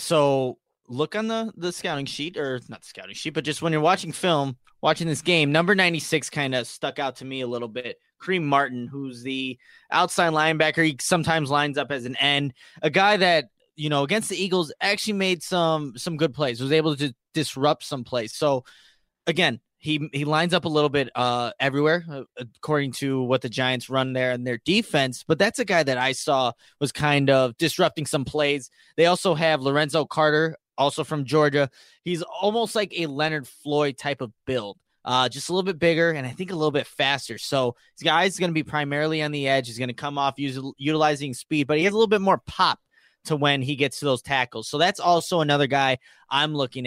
on the scouting sheet, or not the scouting sheet, but just when you're watching film, watching this game, number 96 kind of stuck out to me a little bit. Kareem Martin, who's the outside linebacker. He sometimes lines up as an end. A guy that, against the Eagles actually made some good plays, was able to disrupt some plays. So, again, he lines up a little bit everywhere, according to what the Giants run there and their defense. But that's a guy that I saw was kind of disrupting some plays. They also have Lorenzo Carter, also from Georgia. He's almost like a Leonard Floyd type of build. Just a little bit bigger and I think a little bit faster. So this guy's going to be primarily on the edge. He's going to come off utilizing speed, but he has a little bit more pop to when he gets to those tackles. So that's also another guy I'm looking at.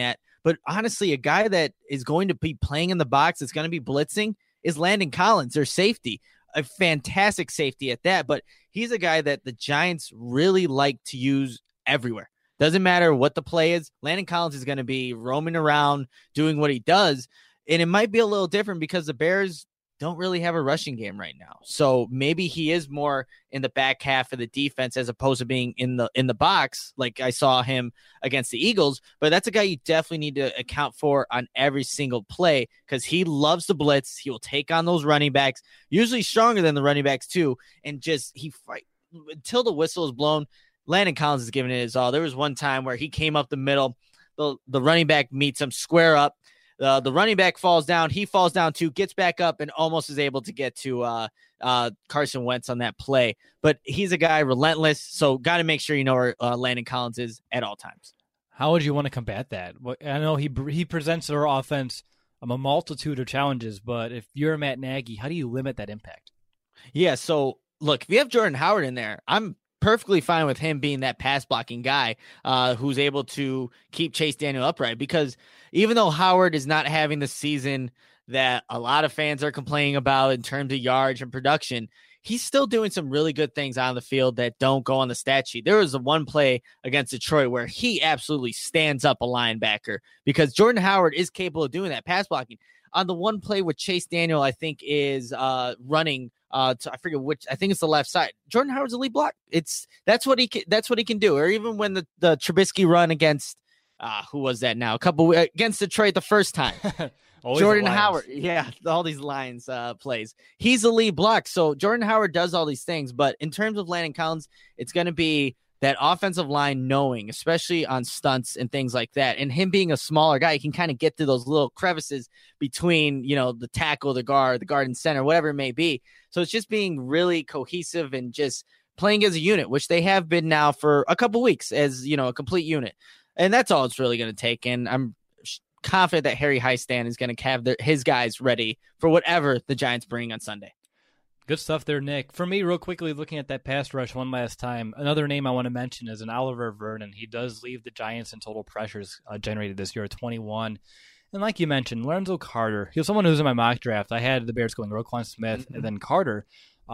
But honestly, a guy that is going to be playing in the box, that's going to be blitzing, is Landon Collins, their safety. A fantastic safety at that, but he's a guy that the Giants really like to use everywhere. Doesn't matter what the play is. Landon Collins is going to be roaming around doing what he does. And it might be a little different because the Bears don't really have a rushing game right now. So maybe he is more in the back half of the defense as opposed to being in the box like I saw him against the Eagles. But that's a guy you definitely need to account for on every single play because he loves to blitz. He will take on those running backs, usually stronger than the running backs too, and just he fight until the whistle is blown. Landon Collins is giving it his all. There was one time where he came up the middle, the running back meets him square up. The running back falls down. He falls down too, gets back up, and almost is able to get to Carson Wentz on that play. But he's a guy relentless, so got to make sure you know where Landon Collins is at all times. How would you want to combat that? I know he presents our offense a multitude of challenges, but if you're Matt Nagy, how do you limit that impact? Yeah, so look, if you have Jordan Howard in there, I'm perfectly fine with him being that pass blocking guy who's able to keep Chase Daniel upright, because even though Howard is not having the season that a lot of fans are complaining about in terms of yards and production, he's still doing some really good things on the field that don't go on the stat sheet. There was one play against Detroit where he absolutely stands up a linebacker because Jordan Howard is capable of doing that pass blocking. On the one play with Chase Daniel, I think is running I forget which. I think it's the left side. Jordan Howard's a lead block. That's what he can do. Or even when the Trubisky run against who was that now? Against Detroit the first time. Jordan Howard. Yeah, all these Lions plays. He's a lead block. So Jordan Howard does all these things. But in terms of Landon Collins, it's going to be that offensive line knowing, especially on stunts and things like that. And him being a smaller guy, he can kind of get through those little crevices between, the tackle, the guard and center, whatever it may be. So it's just being really cohesive and just playing as a unit, which they have been now for a couple weeks as, a complete unit. And that's all it's really going to take. And I'm confident that Harry Highstand is going to have his guys ready for whatever the Giants bring on Sunday. Good stuff there, Nick. For me, real quickly, looking at that pass rush one last time, another name I want to mention is an Oliver Vernon. He does leave the Giants in total pressures generated this year at 21. And like you mentioned, Lorenzo Carter, he was someone who was in my mock draft. I had the Bears going Roquan Smith and then Carter.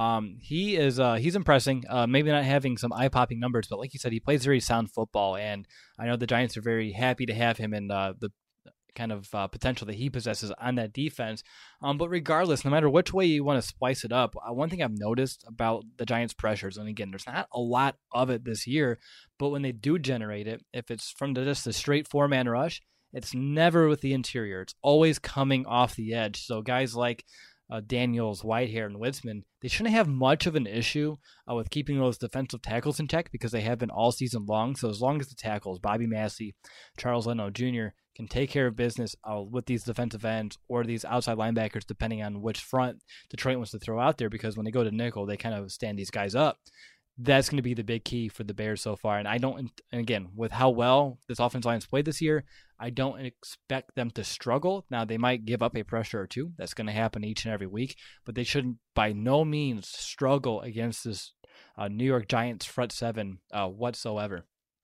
He's impressing, maybe not having some eye-popping numbers, but like you said, he plays very sound football. And I know the Giants are very happy to have him in the kind of potential that he possesses on that defense. But regardless, no matter which way you want to splice it up, one thing I've noticed about the Giants' pressures, and again, there's not a lot of it this year, but when they do generate it, if it's from just a straight four-man rush, it's never with the interior. It's always coming off the edge. So guys like Daniels, Whitehair, and Witzman, they shouldn't have much of an issue with keeping those defensive tackles in check because they have been all season long. So as long as the tackles, Bobby Massey, Charles Leno Jr., can take care of business with these defensive ends or these outside linebackers, depending on which front Detroit wants to throw out there, because when they go to nickel, they kind of stand these guys up. That's going to be the big key for the Bears so far. And again, with how well this offensive line's played this year, I don't expect them to struggle. Now, they might give up a pressure or two. That's going to happen each and every week, but they shouldn't by no means struggle against this New York Giants front seven whatsoever.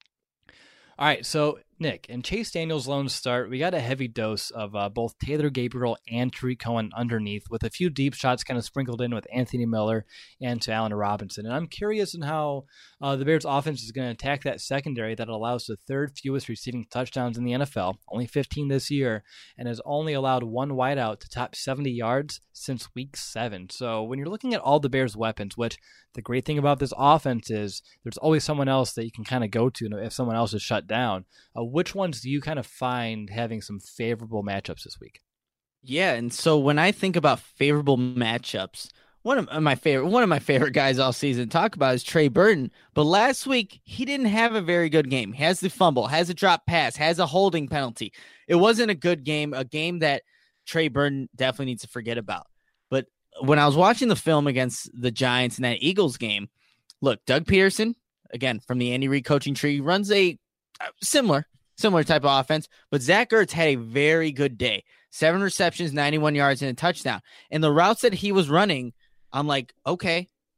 All right, so Nick, in Chase Daniel's lone start, we got a heavy dose of both Taylor Gabriel and Tariq Cohen underneath, with a few deep shots kind of sprinkled in with Anthony Miller and to Allen Robinson. And I'm curious in how the Bears offense is going to attack that secondary that allows the third fewest receiving touchdowns in the NFL, only 15 this year, and has only allowed one wideout to top 70 yards since week 7. So when you're looking at all the Bears' weapons, which the great thing about this offense is there's always someone else that you can kind of go to if someone else is shut down. Which ones do you kind of find having some favorable matchups this week? Yeah, and so when I think about favorable matchups, one of my favorite guys all season to talk about is Trey Burton. But last week, he didn't have a very good game. He has the fumble, has a drop pass, has a holding penalty. It wasn't a good game, a game that Trey Burton definitely needs to forget about. But when I was watching the film against the Giants in that Eagles game, look, Doug Peterson, again, from the Andy Reid coaching tree, runs a similar type of offense, but Zach Ertz had a very good day. 7 receptions, 91 yards, and a touchdown. And the routes that he was running, I'm like, okay,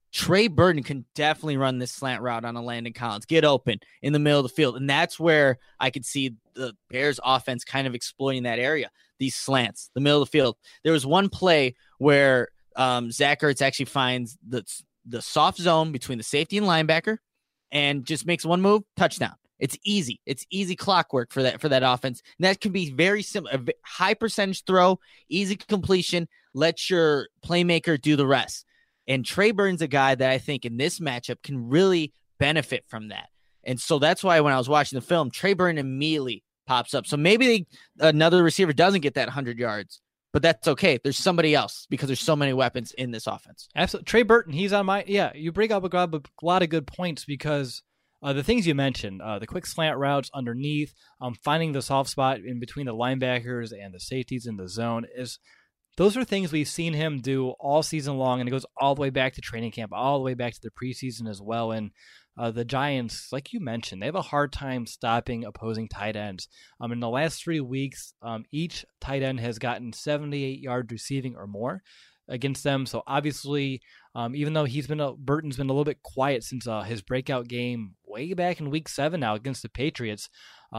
Trey Burton can definitely run this slant route on a Landon Collins, get open in the middle of the field. And that's where I could see the Bears offense kind of exploiting that area, these slants, the middle of the field. There was one play where Zach Ertz actually finds the soft zone between the safety and linebacker and just makes one move, touchdown. It's easy. It's easy clockwork for that offense. And that can be very simple, a high percentage throw, easy completion. Let your playmaker do the rest. And Trey Burton's a guy that I think in this matchup can really benefit from that. And so that's why when I was watching the film, Trey Burton immediately pops up. So maybe another receiver doesn't get that 100 yards, but that's okay. There's somebody else because there's so many weapons in this offense. Absolutely. Trey Burton, he's on my, you bring up a lot of good points because the things you mentioned, the quick slant routes underneath, finding the soft spot in between the linebackers and the safeties in the zone those are things we've seen him do all season long, and it goes all the way back to training camp, all the way back to the preseason as well. And the Giants, like you mentioned, they have a hard time stopping opposing tight ends. In the last 3 weeks, each tight end has gotten 78 yards receiving or more against them. So obviously, even though Burton's been a little bit quiet since his breakout game way back in week 7 now against the Patriots,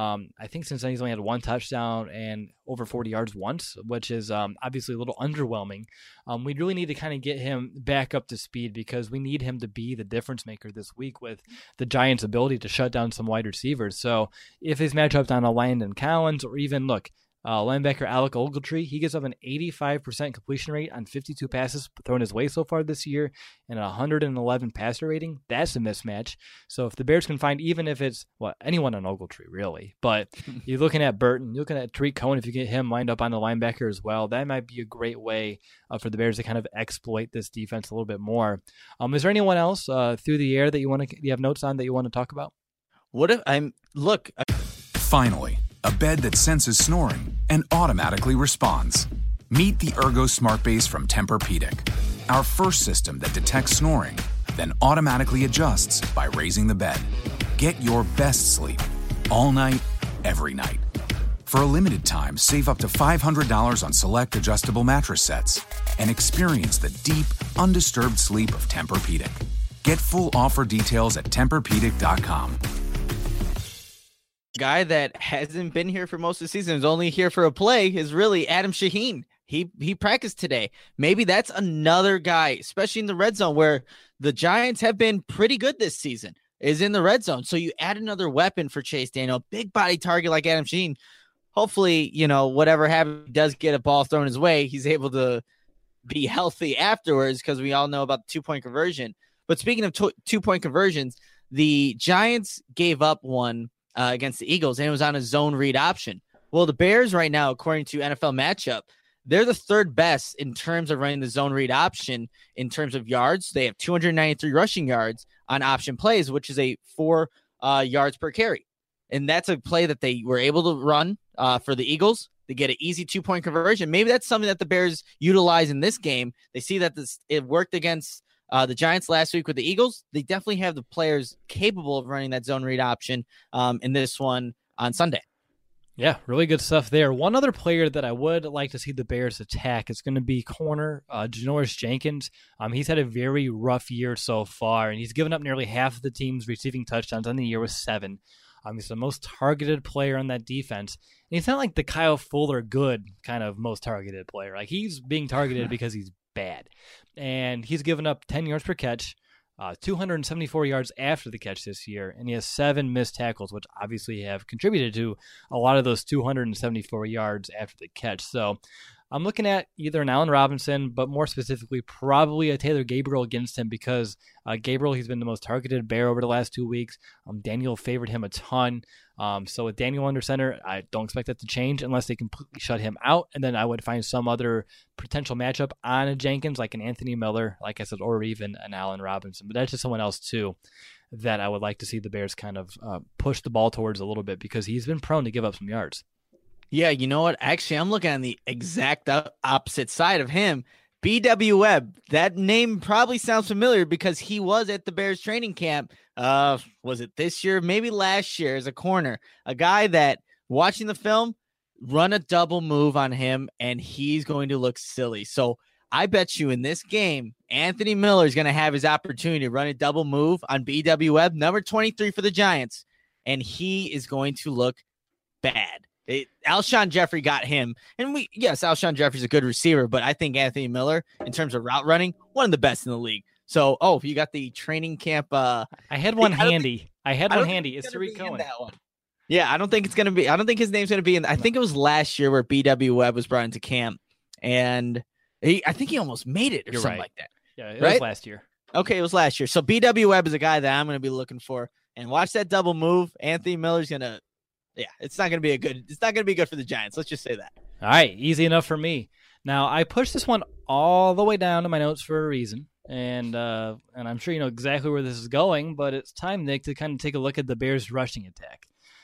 I think since then he's only had one touchdown and over 40 yards once, which is obviously a little underwhelming. We really need to kind of get him back up to speed because we need him to be the difference maker this week with the Giants' ability to shut down some wide receivers. So if his matchup's on a Landon Collins or even, linebacker Alec Ogletree, he gets up an 85% completion rate on 52 passes thrown his way so far this year and a 111 passer rating. That's a mismatch. So if the Bears can find, even if it's anyone on Ogletree really, but you're looking at Burton, you're looking at Tariq Cohen, if you get him lined up on the linebacker as well, that might be a great way for the Bears to kind of exploit this defense a little bit more. Is there anyone else through the air that you have notes on that you want to talk about? Finally, a bed that senses snoring and automatically responds. Meet the Ergo Smart Base from Tempur-Pedic, our first system that detects snoring, then automatically adjusts by raising the bed. Get your best sleep all night, every night. For a limited time, save up to $500 on select adjustable mattress sets and experience the deep, undisturbed sleep of Tempur-Pedic. Get full offer details at TempurPedic.com. Guy that hasn't been here for most of the season, is only here for a play, is really Adam Shaheen. He practiced today. Maybe that's another guy, especially in the red zone, where the Giants have been pretty good this season, is in the red zone. So you add another weapon for Chase Daniel, big body target like Adam Shaheen. Hopefully, whatever happens, does get a ball thrown his way, he's able to be healthy afterwards, because we all know about the 2-point conversion. But speaking of 2-point conversions, the Giants gave up one against the Eagles, and it was on a zone read option. Well, the Bears right now, according to NFL Matchup, they're the third best in terms of running the zone read option in terms of yards. They have 293 rushing yards on option plays, which is a 4 yards per carry. And that's a play that they were able to run for the Eagles. They get an easy 2-point conversion. Maybe that's something that the Bears utilize in this game. They see that it worked against the Giants last week with the Eagles. They definitely have the players capable of running that zone read option in this one on Sunday. Yeah, really good stuff there. One other player that I would like to see the Bears attack is going to be corner Janoris Jenkins. He's had a very rough year so far, and he's given up nearly half of the team's receiving touchdowns on the year with 7. He's the most targeted player on that defense. And he's not like the Kyle Fuller good kind of most targeted player. Like, he's being targeted because he's bad. And he's given up 10 yards per catch, 274 yards after the catch this year, and he has 7 missed tackles, which obviously have contributed to a lot of those 274 yards after the catch. So I'm looking at either an Allen Robinson, but more specifically probably a Taylor Gabriel against him, because Gabriel, he's been the most targeted Bear over the last 2 weeks. Daniel favored him a ton. So with Daniel under center, I don't expect that to change unless they completely shut him out. And then I would find some other potential matchup on a Jenkins, like an Anthony Miller, like I said, or even an Allen Robinson. But that's just someone else too that I would like to see the Bears kind of push the ball towards a little bit, because he's been prone to give up some yards. Yeah, you know what? Actually, I'm looking on the exact opposite side of him. B.W. Webb, that name probably sounds familiar because he was at the Bears training camp. Was it this year? Maybe last year as a corner. A guy that, watching the film, run a double move on him, and he's going to look silly. So I bet you in this game, Anthony Miller is going to have his opportunity to run a double move on BW Webb, number 23 for the Giants, and he is going to look bad. Alshon Jeffrey got him, and Alshon Jeffrey's a good receiver, but I think Anthony Miller, in terms of route running, one of the best in the league. So, you got the training camp. I had one handy. It's Tariq Cohen. Yeah, I don't think it's going to be. I don't think his name's going to be in. I think it was last year where BW Webb was brought into camp, and I think he almost made it or You're something right. like that. Yeah, it was last year. Okay, it was last year. So BW Webb is a guy that I'm going to be looking for, and watch that double move. Anthony Miller's going to. Yeah, it's not going to be good for the Giants. Let's just say that. All right, easy enough for me. Now I pushed this one all the way down to my notes for a reason. And I'm sure you know exactly where this is going, but it's time, Nick, to kind of take a look at the Bears' rushing attack.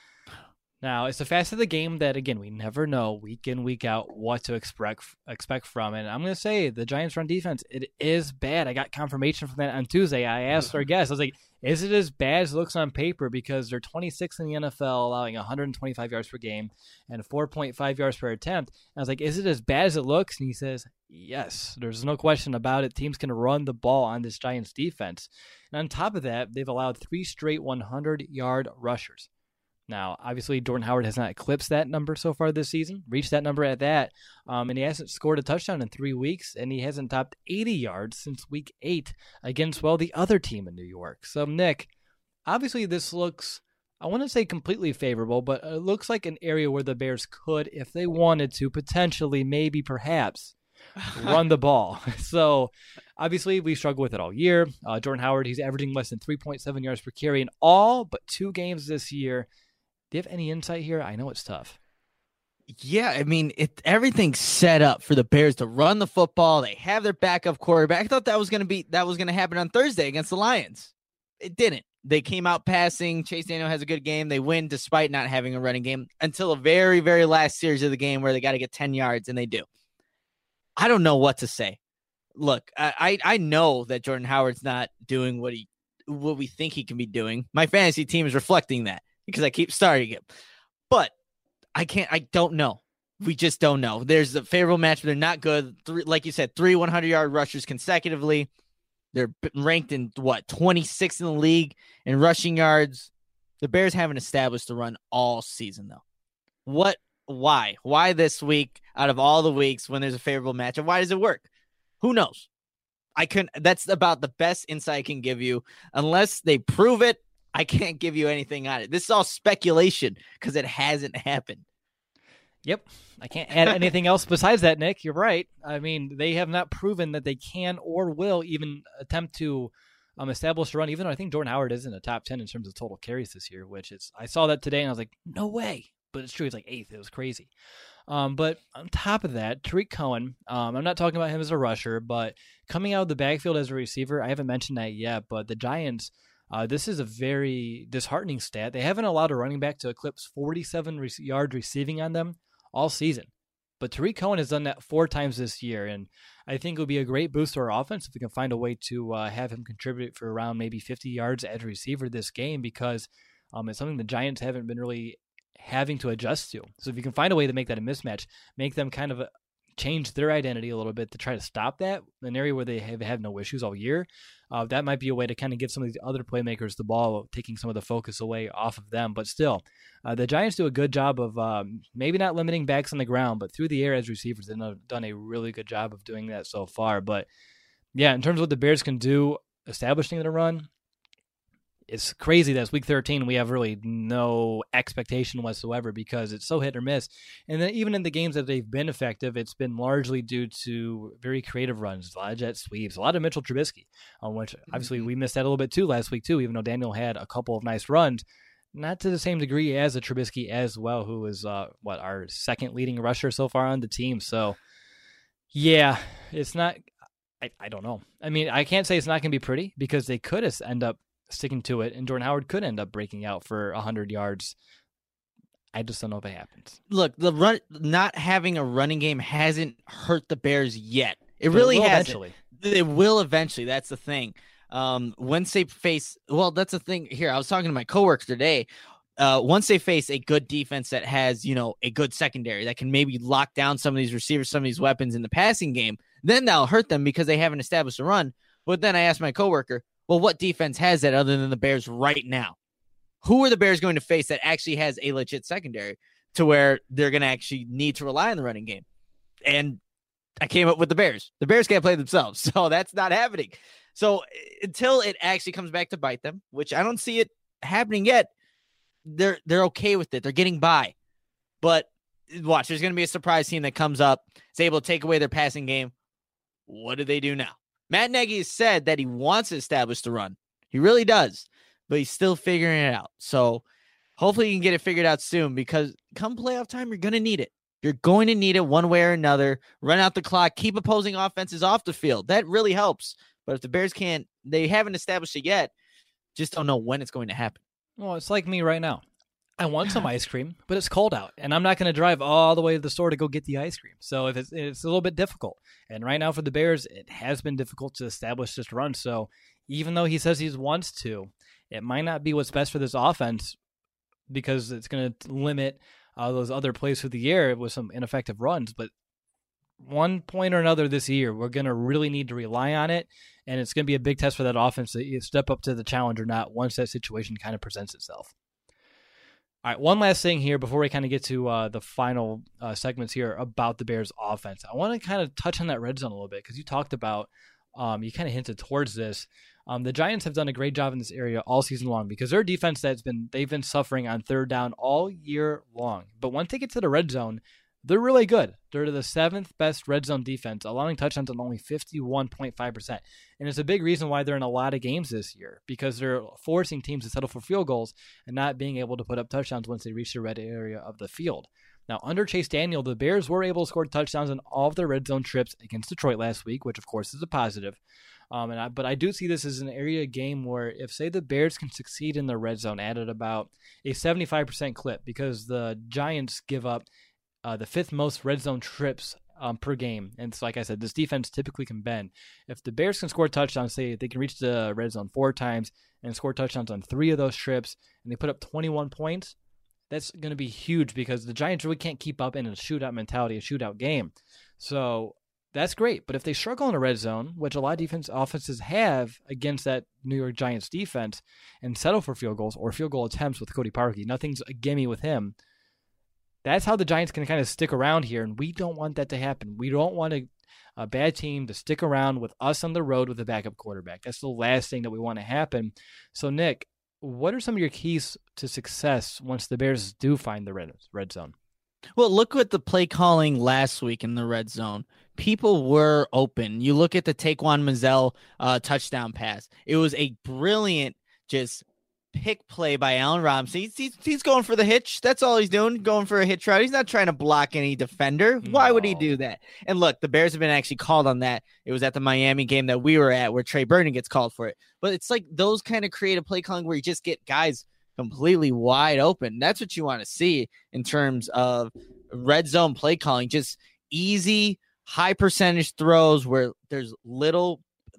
Now, it's a facet of the game that, again, we never know week in, week out what to expect from. And I'm going to say the Giants' run defense, it is bad. I got confirmation from that on Tuesday. I asked our guests, I was like, is it as bad as it looks on paper? Because they're 26th in the NFL, allowing 125 yards per game and 4.5 yards per attempt. And I was like, is it as bad as it looks? And he says, yes, there's no question about it. Teams can run the ball on this Giants defense. And on top of that, they've allowed 3 straight 100-yard rushers. Now, obviously, Jordan Howard has not eclipsed that number so far this season, reached that number at that, and he hasn't scored a touchdown in 3 weeks, and he hasn't topped 80 yards since week 8 against, the other team in New York. So, Nick, obviously this looks, I want to say completely favorable, but it looks like an area where the Bears could, if they wanted to, potentially, maybe, perhaps, run the ball. So, obviously, we struggled with it all year. Jordan Howard, he's averaging less than 3.7 yards per carry in all but 2 games this year. Do you have any insight here? I know it's tough. Yeah, I mean, everything's set up for the Bears to run the football. They have their backup quarterback. I thought that was going to happen on Thursday against the Lions. It didn't. They came out passing. Chase Daniel has a good game. They win despite not having a running game until a very, very last series of the game where they got to get 10 yards, and they do. I don't know what to say. Look, I know that Jordan Howard's not doing what we think he can be doing. My fantasy team is reflecting that, because I keep starting him. But I don't know. We just don't know. There's a favorable match, but they're not good. Like you said, 3 100-yard rushers consecutively. They're ranked in, 26th in the league in rushing yards. The Bears haven't established the run all season, though. Why? Why this week out of all the weeks when there's a favorable matchup? Why does it work? Who knows? That's about the best insight I can give you. Unless they prove it, I can't give you anything on it. This is all speculation because it hasn't happened. Yep. I can't add anything else besides that, Nick. You're right. I mean, they have not proven that they can or will even attempt to establish a run, even though I think Jordan Howard is in the top 10 in terms of total carries this year, which is, I saw that today and I was like, no way. But it's true. It's like 8th. It was crazy. But on top of that, Tariq Cohen, I'm not talking about him as a rusher, but coming out of the backfield as a receiver, I haven't mentioned that yet, but the Giants, this is a very disheartening stat. They haven't allowed a running back to eclipse 47 yards receiving on them all season. But Tariq Cohen has done that 4 times this year, and I think it would be a great boost to our offense if we can find a way to have him contribute for around maybe 50 yards as a receiver this game, because it's something the Giants haven't been really having to adjust to. So if you can find a way to make that a mismatch, make them kind of change their identity a little bit to try to stop that, an area where they have had no issues all year, that might be a way to kind of give some of these other playmakers the ball, taking some of the focus away off of them. But still, the Giants do a good job of maybe not limiting backs on the ground, but through the air as receivers, they've done a really good job of doing that so far. But yeah, in terms of what the Bears can do establishing the run, it's crazy that it's week 13. We have really no expectation whatsoever because it's so hit or miss. And then even in the games that they've been effective, it's been largely due to very creative runs, a lot of jet sweeps, a lot of Mitchell Trubisky, which obviously we missed that a little bit too last week too, even though Daniel had a couple of nice runs. Not to the same degree as a Trubisky as well, who is our second leading rusher so far on the team. So yeah, it's not, I don't know. I mean, I can't say it's not going to be pretty because they could end up sticking to it, and Jordan Howard could end up breaking out for 100 yards. I just don't know if it happens. Look, not having a running game hasn't hurt the Bears yet. It really hasn't. Eventually. It will eventually. That's the thing. Once they face, that's the thing here. I was talking to my coworker today. Once they face a good defense that has, a good secondary that can maybe lock down some of these receivers, some of these weapons in the passing game, then that'll hurt them because they haven't established a run. But then I asked my coworker, well, what defense has that other than the Bears right now? Who are the Bears going to face that actually has a legit secondary to where they're going to actually need to rely on the running game? And I came up with the Bears. The Bears can't play themselves, so that's not happening. So until it actually comes back to bite them, which I don't see it happening yet, they're okay with it. They're getting by. But watch, there's going to be a surprise team that comes up, is able to take away their passing game. What do they do now? Matt Nagy has said that he wants to establish the run. He really does, but he's still figuring it out. So hopefully you can get it figured out soon, because come playoff time, you're going to need it. You're going to need it one way or another. Run out the clock, keep opposing offenses off the field. That really helps. But if the Bears they haven't established it yet, just don't know when it's going to happen. Well, it's like me right now. I want some ice cream, but it's cold out, and I'm not going to drive all the way to the store to go get the ice cream. So if it's a little bit difficult. And right now for the Bears, it has been difficult to establish this run. So even though he says he wants to, it might not be what's best for this offense, because it's going to limit those other plays through the air with some ineffective runs. But one point or another this year, we're going to really need to rely on it, and it's going to be a big test for that offense to either step up to the challenge or not once that situation kind of presents itself. All right, one last thing here before we kind of get to the final segments here about the Bears offense. I want to kind of touch on that red zone a little bit, because you talked about, you kind of hinted towards this. The Giants have done a great job in this area all season long, because their defense they've been suffering on third down all year long. But once they get to the red zone, they're really good. They're the 7th best red zone defense, allowing touchdowns on only 51.5%. And it's a big reason why they're in a lot of games this year, because they're forcing teams to settle for field goals and not being able to put up touchdowns once they reach the red area of the field. Now, under Chase Daniel, the Bears were able to score touchdowns on all of their red zone trips against Detroit last week, which of course is a positive. But I do see this as an area game where if, say, the Bears can succeed in the red zone at about a 75% clip, because the Giants give up the 5th most red zone trips per game. And so, like I said, this defense typically can bend. If the Bears can score touchdowns, say they can reach the red zone 4 times and score touchdowns on 3 of those trips, and they put up 21 points, that's going to be huge, because the Giants really can't keep up in a shootout mentality, a shootout game. So that's great. But if they struggle in a red zone, which a lot of offenses have against that New York Giants defense, and settle for field goals or field goal attempts with Cody Parkey, nothing's a gimme with him. That's how the Giants can kind of stick around here, and we don't want that to happen. We don't want a bad team to stick around with us on the road with a backup quarterback. That's the last thing that we want to happen. So, Nick, what are some of your keys to success once the Bears do find the red zone? Well, look at the play calling last week in the red zone. People were open. You look at the Taquan Manziel touchdown pass. It was a brilliant just pick play by Allen Robinson. He's going for the hitch. That's all he's doing, going for a hitch route. He's not trying to block any defender. Why would he do that? And look, the Bears have been actually called on that. It was at the Miami game that we were at where Trey Burton gets called for it. But it's like those kind of creative play calling where you just get guys completely wide open. That's what you want to see in terms of red zone play calling. Just easy, high percentage throws where there's little,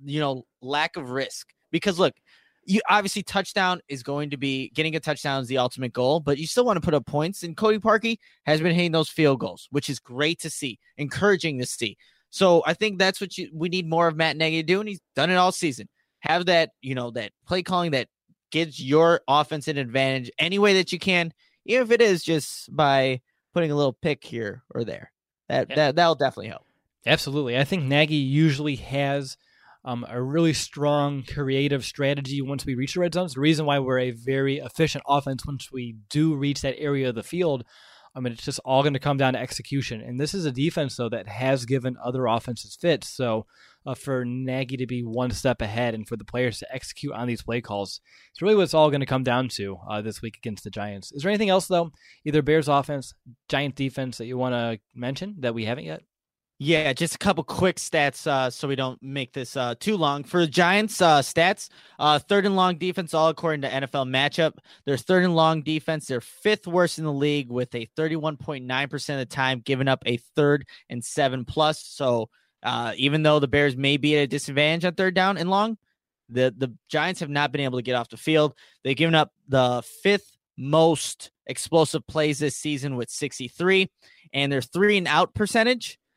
lack of risk. Because look, you obviously touchdown is going to be getting a touchdown is the ultimate goal, but you still want to put up points. And Cody Parkey has been hitting those field goals, which is great to see, encouraging to see. So I think that's what we need more of Matt Nagy to do, and he's done it all season. Have that, that play calling that gives your offense an advantage any way that you can, even if it is just by putting a little pick here or there. That'll definitely help. Absolutely. I think Nagy usually has a really strong creative strategy once we reach the red zone. It's the reason why we're a very efficient offense once we do reach that area of the field. It's just all going to come down to execution. And this is a defense, though, that has given other offenses fits. So for Nagy to be one step ahead and for the players to execute on these play calls, it's really what it's all going to come down to this week against the Giants. Is there anything else, though, either Bears offense, Giant defense, that you want to mention that we haven't yet? Yeah, just a couple quick stats so we don't make this too long. For the Giants stats, 3rd and long defense, all according to NFL matchup. Their 3rd and long defense, they're 5th worst in the league with a 31.9% of the time giving up a 3rd and 7+. So even though the Bears may be at a disadvantage on 3rd down and long, the Giants have not been able to get off the field. They've given up the 5th most explosive plays this season with 63, and their 3 and out percentage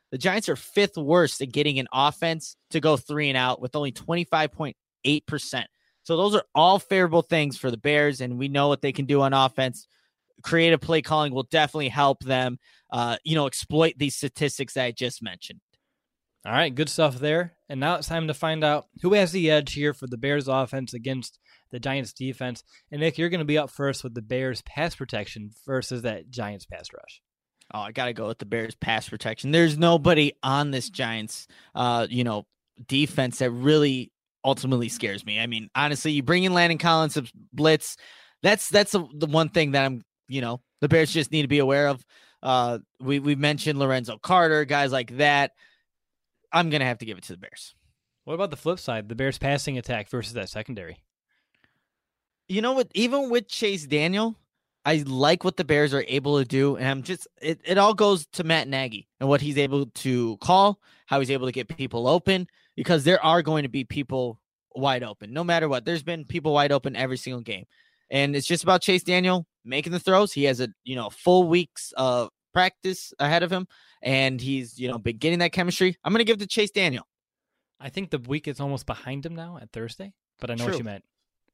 The Giants are 5th worst at getting an offense to go 3 and out with only 25.8%. So those are all favorable things for the Bears, and we know what they can do on offense. Creative play calling will definitely help them, exploit these statistics that I just mentioned. All right, good stuff there. And now it's time to find out who has the edge here for the Bears offense against the Giants defense. And Nick, you're going to be up first with the Bears pass protection versus that Giants pass rush. Oh, I got to go with the Bears pass protection. There's nobody on this Giants, defense that really ultimately scares me. I mean, honestly, you bring in Landon Collins to blitz. That's the one thing that the Bears just need to be aware of. We mentioned Lorenzo Carter, guys like that. I'm going to have to give it to the Bears. What about the flip side, the Bears passing attack versus that secondary? You know what? Even with Chase Daniel, I like what the Bears are able to do. And it all goes to Matt Nagy and what he's able to call, how he's able to get people open, because there are going to be people wide open. No matter what, there's been people wide open every single game. And it's just about Chase Daniel making the throws. He has a full weeks of practice ahead of him, and he's been getting that chemistry. I'm going to give it to Chase Daniel. I think the week is almost behind him now at Thursday, but I know what you meant.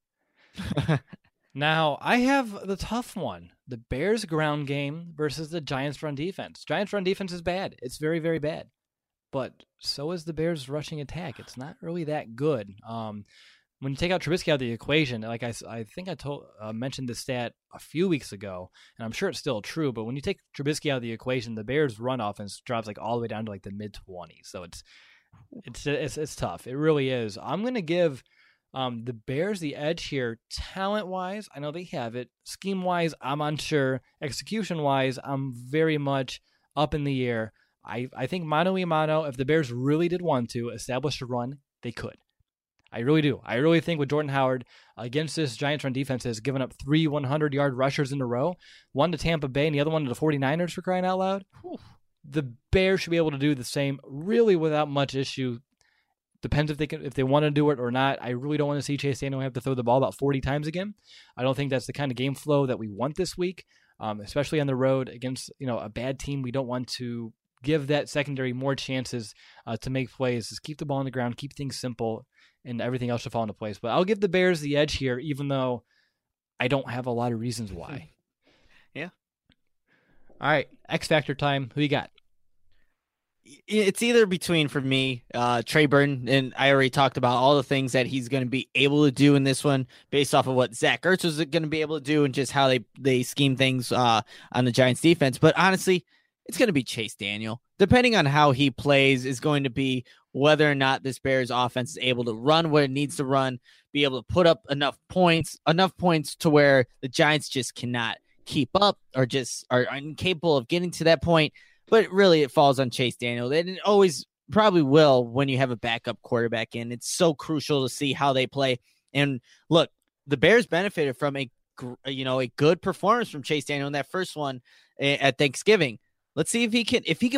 Now, I have the tough one. The Bears ground game versus the Giants run defense. Giants run defense is bad. It's very, very bad. But so is the Bears rushing attack. It's not really that good. When you take out Trubisky out of the equation, like I think I mentioned this stat a few weeks ago, and I'm sure it's still true, but when you take Trubisky out of the equation, the Bears run offense drops like all the way down to like the mid-20s. So it's tough. It really is. I'm going to give the Bears the edge here talent-wise. I know they have it. Scheme-wise, I'm unsure. Execution-wise, I'm very much up in the air. I think mano-a-mano, if the Bears really did want to establish a run, they could. I really do. I really think with Jordan Howard against this Giants run defense has given up 3 100-yard rushers in a row, one to Tampa Bay and the other one to the 49ers, for crying out loud. Whew. The Bears should be able to do the same really without much issue. Depends if they want to do it or not. I really don't want to see Chase Daniel have to throw the ball about 40 times again. I don't think that's the kind of game flow that we want this week, especially on the road against a bad team. We don't want to give that secondary more chances to make plays. Just keep the ball on the ground, keep things simple, and everything else should fall into place. But I'll give the Bears the edge here, even though I don't have a lot of reasons why. Yeah. All right, X Factor time. Who you got? It's either between, for me, Trey Burton, and I already talked about all the things that he's going to be able to do in this one based off of what Zach Ertz was going to be able to do and just how they scheme things on the Giants defense. But honestly, it's going to be Chase Daniel. Depending on how he plays is going to be whether or not this Bears offense is able to run what it needs to run, be able to put up enough points to where the Giants just cannot keep up or just are incapable of getting to that point. But really, it falls on Chase Daniel. And it always probably will when you have a backup quarterback in. It's so crucial to see how they play. And look, the Bears benefited from a good performance from Chase Daniel in that first one at Thanksgiving. Let's see if he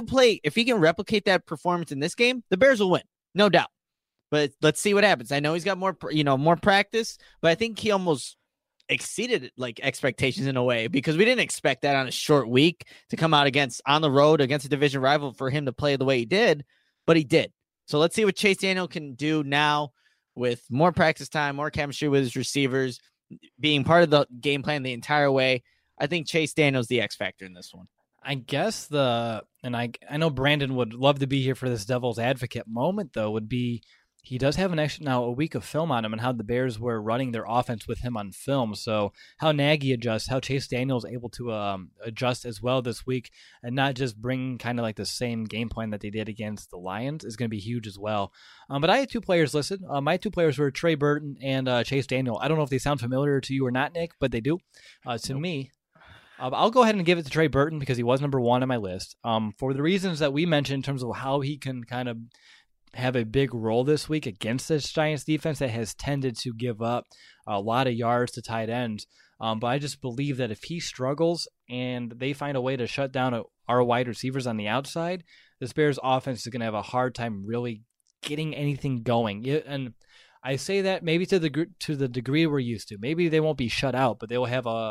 can replicate that performance in this game. The Bears will win, no doubt. But let's see what happens. I know he's got more practice, but I think he almost exceeded expectations in a way, because we didn't expect that on a short week to come out on the road against a division rival for him to play the way he did, but he did. So let's see what Chase Daniel can do now with more practice time, more chemistry with his receivers, being part of the game plan the entire way. I think Chase Daniel's the X factor in this one. I guess I know Brandon would love to be here for this devil's advocate moment, though, would be he does have a week of film on him and how the Bears were running their offense with him on film. So how Nagy adjusts, how Chase Daniel is able to adjust as well this week and not just bring kind of like the same game plan that they did against the Lions is going to be huge as well. But I had 2 players listed. My 2 players were Trey Burton and Chase Daniel. I don't know if they sound familiar to you or not, Nick, but they do. To me, I'll go ahead and give it to Trey Burton because he was number 1 on my list. For the reasons that we mentioned in terms of how he can kind of have a big role this week against this Giants defense that has tended to give up a lot of yards to tight ends. But I just believe that if he struggles and they find a way to shut down our wide receivers on the outside, this Bears offense is going to have a hard time really getting anything going. And I say that maybe to the degree we're used to. Maybe they won't be shut out, but they'll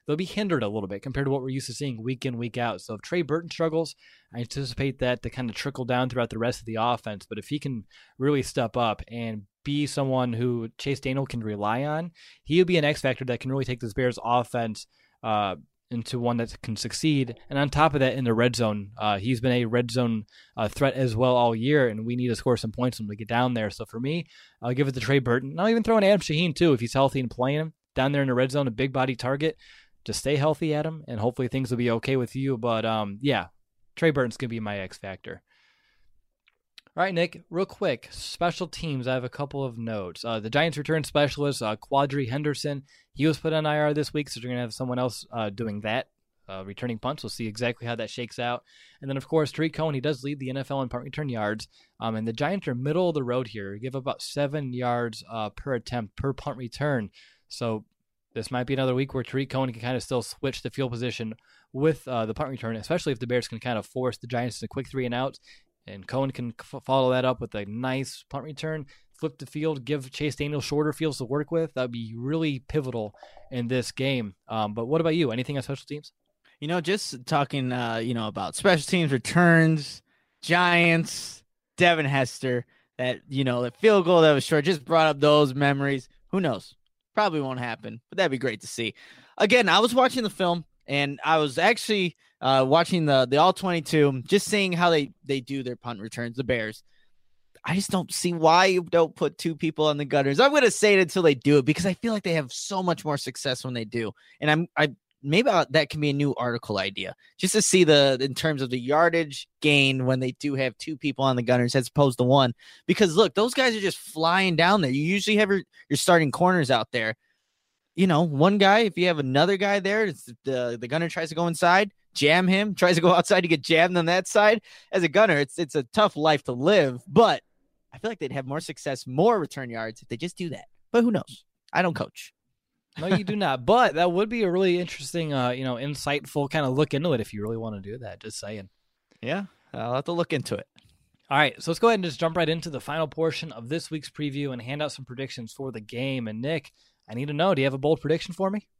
they'll be hindered a little bit compared to what we're used to seeing week in, week out. So if Trey Burton struggles, I anticipate that to kind of trickle down throughout the rest of the offense. But if he can really step up and be someone who Chase Daniel can rely on, he'll be an X factor that can really take this Bears offense into one that can succeed. And on top of that, in the red zone, he's been a red zone threat as well all year, and we need to score some points when we get down there. So for me, I'll give it to Trey Burton. And I'll even throw in Adam Shaheen too if he's healthy and playing him down there in the red zone, a big body target. Just stay healthy, Adam, and hopefully things will be okay with you. But yeah, Trey Burton's going to be my X factor. All right, Nick, real quick, special teams. I have a couple of notes. The Giants return specialist, Quadri Henderson, he was put on IR this week, so you're going to have someone else doing that, returning punts. We'll see exactly how that shakes out. And then, of course, Tariq Cohen, he does lead the NFL in punt return yards. And the Giants are middle of the road here. Give about 7 yards per attempt per punt return. So this might be another week where Tariq Cohen can kind of still switch the field position with the punt return, especially if the Bears can kind of force the Giants to quick 3 and outs. And Cohen can follow that up with a nice punt return, flip the field, give Chase Daniel shorter fields to work with. That would be really pivotal in this game. But what about you? Anything on special teams? Just talking, about special teams, returns, Giants, Devin Hester, that field goal that was short, just brought up those memories. Who knows? Probably won't happen, but that'd be great to see. Again, I was watching the film, and I was actually watching the All-22, just seeing how they do their punt returns, the Bears. I just don't see why you don't put 2 people on the Gunners. I'm going to say it until they do it because I feel like they have so much more success when they do. And maybe that can be a new article idea, just to see in terms of the yardage gain when they do have 2 people on the Gunners as opposed to 1. Because look, those guys are just flying down there. You usually have your starting corners out there. One guy, if you have another guy there, the gunner tries to go inside, jam him, tries to go outside to get jammed on that side. As a gunner, it's a tough life to live, but I feel like they'd have more success, more return yards if they just do that. But who knows? I don't coach. No, you do not. But that would be a really interesting, insightful kind of look into it if you really want to do that. Just saying. Yeah, I'll have to look into it. All right, so let's go ahead and just jump right into the final portion of this week's preview and hand out some predictions for the game. And Nick, I need to know, do you have a bold prediction for me?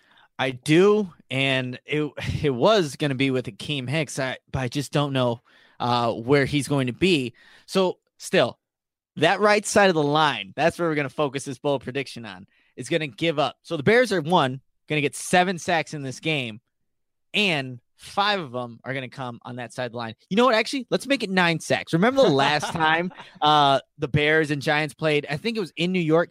I do, and it was going to be with Akeem Hicks, but I just don't know where he's going to be. So still, that right side of the line, that's where we're going to focus this bold prediction on. Is going to give up. So the Bears are going to get 7 sacks in this game, and 5 of them are going to come on that side of the line. You know what? Actually, let's make it 9 sacks. Remember the last time the Bears and Giants played? I think it was in New York.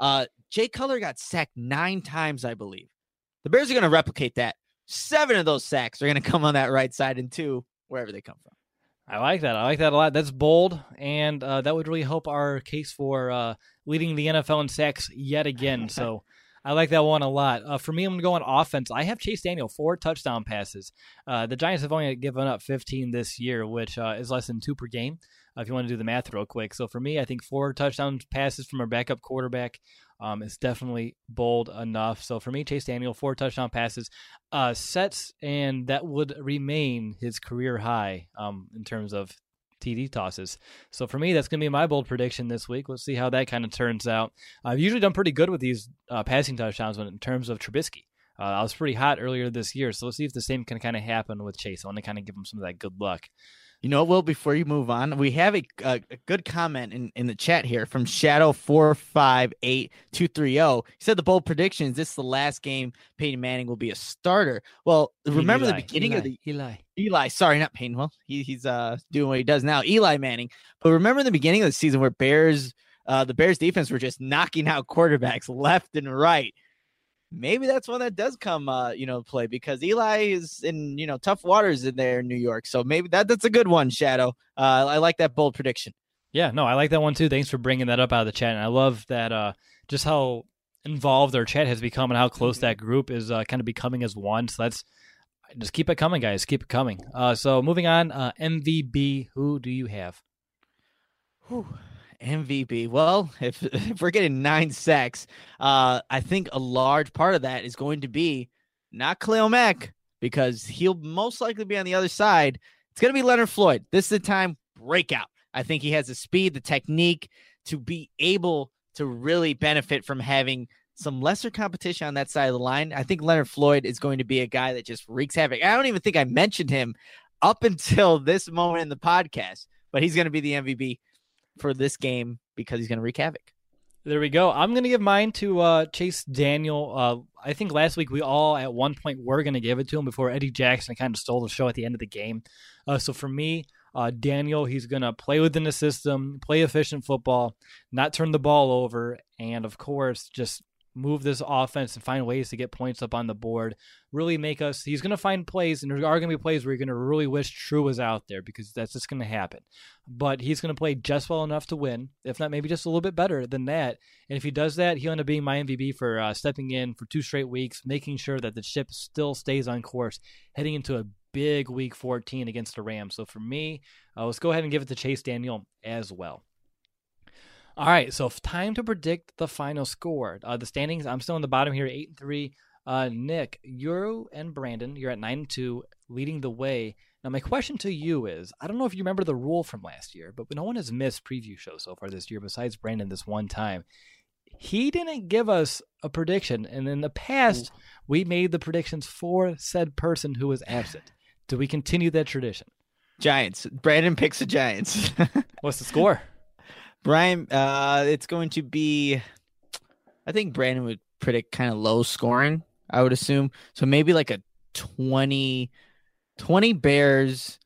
Jay Cutler got sacked 9 times, I believe. The Bears are going to replicate that. 7 of those sacks are going to come on that right side, and 2 wherever they come from. I like that. I like that a lot. That's bold, and that would really help our case for leading the NFL in sacks yet again. So I like that one a lot. For me, I'm going to go on offense. I have Chase Daniel, 4 touchdown passes. The Giants have only given up 15 this year, which is less than 2 per game, if you want to do the math real quick. So for me, I think 4 touchdown passes from our backup quarterback is definitely bold enough. So for me, Chase Daniel, 4 touchdown passes, sets, and that would remain his career high in terms of TD tosses. So for me, that's going to be my bold prediction this week. Let's see how that kind of turns out. I've usually done pretty good with these passing touchdowns in terms of Trubisky. I was pretty hot earlier this year, so let's see if the same can kind of happen with Chase. I want to kind of give him some of that good luck. You know what, Will, before you move on, we have a good comment in the chat here from Shadow458230. He said the bold prediction is this is the last game Peyton Manning will be a starter. Well, remember the beginning of the Eli, sorry, not Peyton. Well, he's doing what he does now, Eli Manning. But remember the beginning of the season where the Bears defense were just knocking out quarterbacks left and right. Maybe that's one that does come, play, because Eli is in, tough waters in there in New York. So maybe that's a good one, Shadow. I like that bold prediction. Yeah, no, I like that one too. Thanks for bringing that up out of the chat. And I love that just how involved our chat has become and how close that group is kind of becoming as one. So just keep it coming, guys. Keep it coming. So moving on, MVB, who do you have? MVP. Well, if we're getting 9 sacks, I think a large part of that is going to be not Khalil Mack, because he'll most likely be on the other side. It's going to be Leonard Floyd. This is the time breakout. I think he has the speed, the technique to be able to really benefit from having some lesser competition on that side of the line. I think Leonard Floyd is going to be a guy that just wreaks havoc. I don't even think I mentioned him up until this moment in the podcast, but he's going to be the MVP for this game because he's going to wreak havoc. There we go. I'm going to give mine to Chase Daniel. I think last week we all at one point were going to give it to him before Eddie Jackson kind of stole the show at the end of the game. So for me, Daniel, he's going to play within the system, play efficient football, not turn the ball over, and of course, just move this offense and find ways to get points up on the board. Really make us, he's going to find plays, and there are going to be plays where you're going to really wish True was out there because that's just going to happen. But he's going to play just well enough to win, if not maybe just a little bit better than that. And if he does that, he'll end up being my MVP for stepping in for 2 straight weeks, making sure that the ship still stays on course, heading into a big week 14 against the Rams. So for me, let's go ahead and give it to Chase Daniel as well. All right, so time to predict the final score. The standings, I'm still on the bottom here, 8-3. Nick, you and Brandon, you're at 9-2, leading the way. Now, my question to you is, I don't know if you remember the rule from last year, but no one has missed preview shows so far this year besides Brandon this one time. He didn't give us a prediction, and in the past, we made the predictions for said person who was absent. Do we continue that tradition? Giants. Brandon picks the Giants. What's the score? Brian, it's going to be, I think Brandon would predict kind of low scoring, I would assume. So maybe like a 20 Bears,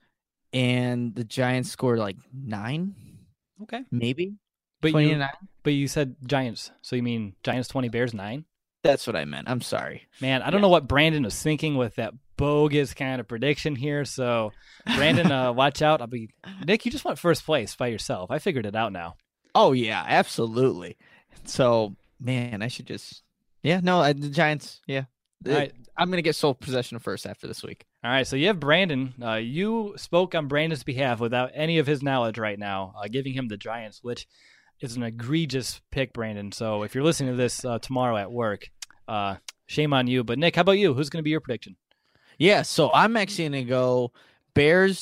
and the Giants score like 9. Okay. Maybe. But 29. But you said Giants, so you mean Giants 20, Bears 9? That's what I meant. I'm sorry. Man, I don't know what Brandon was thinking with that bogus kind of prediction here. So, Brandon, watch out. Nick, you just went first place by yourself. I figured it out now. Oh, yeah, absolutely. So, man, I should just... Yeah, no, the Giants, yeah. Right. I'm going to get sole possession of first after this week. All right, so you have Brandon. You spoke on Brandon's behalf without any of his knowledge right now, giving him the Giants, which is an egregious pick, Brandon. So if you're listening to this tomorrow at work, shame on you. But, Nick, how about you? Who's going to be your prediction? Yeah, so I'm actually going to go Bears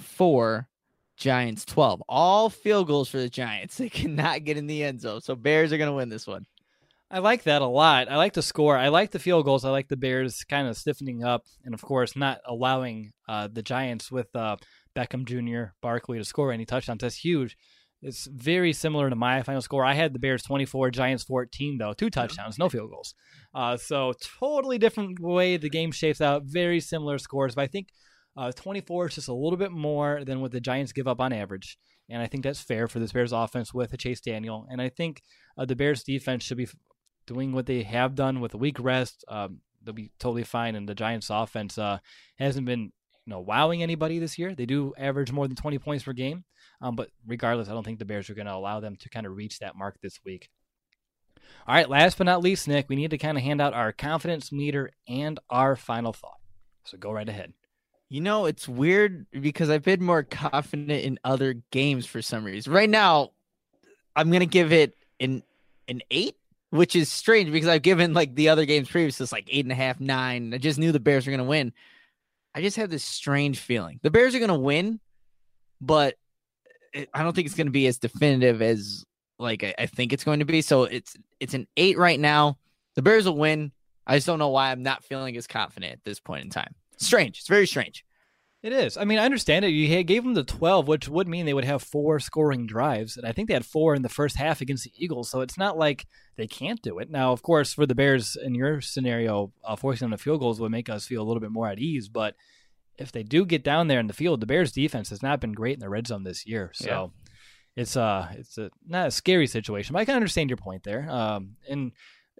24, Giants 12. All field goals for the Giants. They cannot get in the end zone. So Bears are going to win this one. I like that a lot. I like the score. I like the field goals. I like the Bears kind of stiffening up and, of course, not allowing the Giants with Beckham Jr., Barkley to score any touchdowns. That's huge. It's very similar to my final score. I had the Bears 24, Giants 14, though. 2 touchdowns, no field goals. So totally different way the game shapes out. Very similar scores. But I think 24 is just a little bit more than what the Giants give up on average. And I think that's fair for this Bears offense with Chase Daniel. And I think the Bears defense should be doing what they have done with a week rest. They'll be totally fine. And the Giants offense hasn't been wowing anybody this year. They do average more than 20 points per game. But regardless, I don't think the Bears are going to allow them to kind of reach that mark this week. All right, last but not least, Nick, we need to kind of hand out our confidence meter and our final thought. So go right ahead. It's weird because I've been more confident in other games for some reason. Right now, I'm going to give it an 8, which is strange because I've given like the other games previous, it's like 8.5, 9. I just knew the Bears were going to win. I just have this strange feeling. The Bears are going to win, but I don't think it's going to be as definitive as like I think it's going to be. So it's an 8 right now. The Bears will win. I just don't know why I'm not feeling as confident at this point in time. Strange. It's very strange. It is. I mean, I understand it. You gave them the 12, which would mean they would have 4 scoring drives. And I think they had 4 in the first half against the Eagles. So it's not like they can't do it. Now, of course, for the Bears in your scenario, forcing them to field goals would make us feel a little bit more at ease. But if they do get down there in the field, the Bears defense has not been great in the red zone this year. So it's not a scary situation, but I can understand your point there. And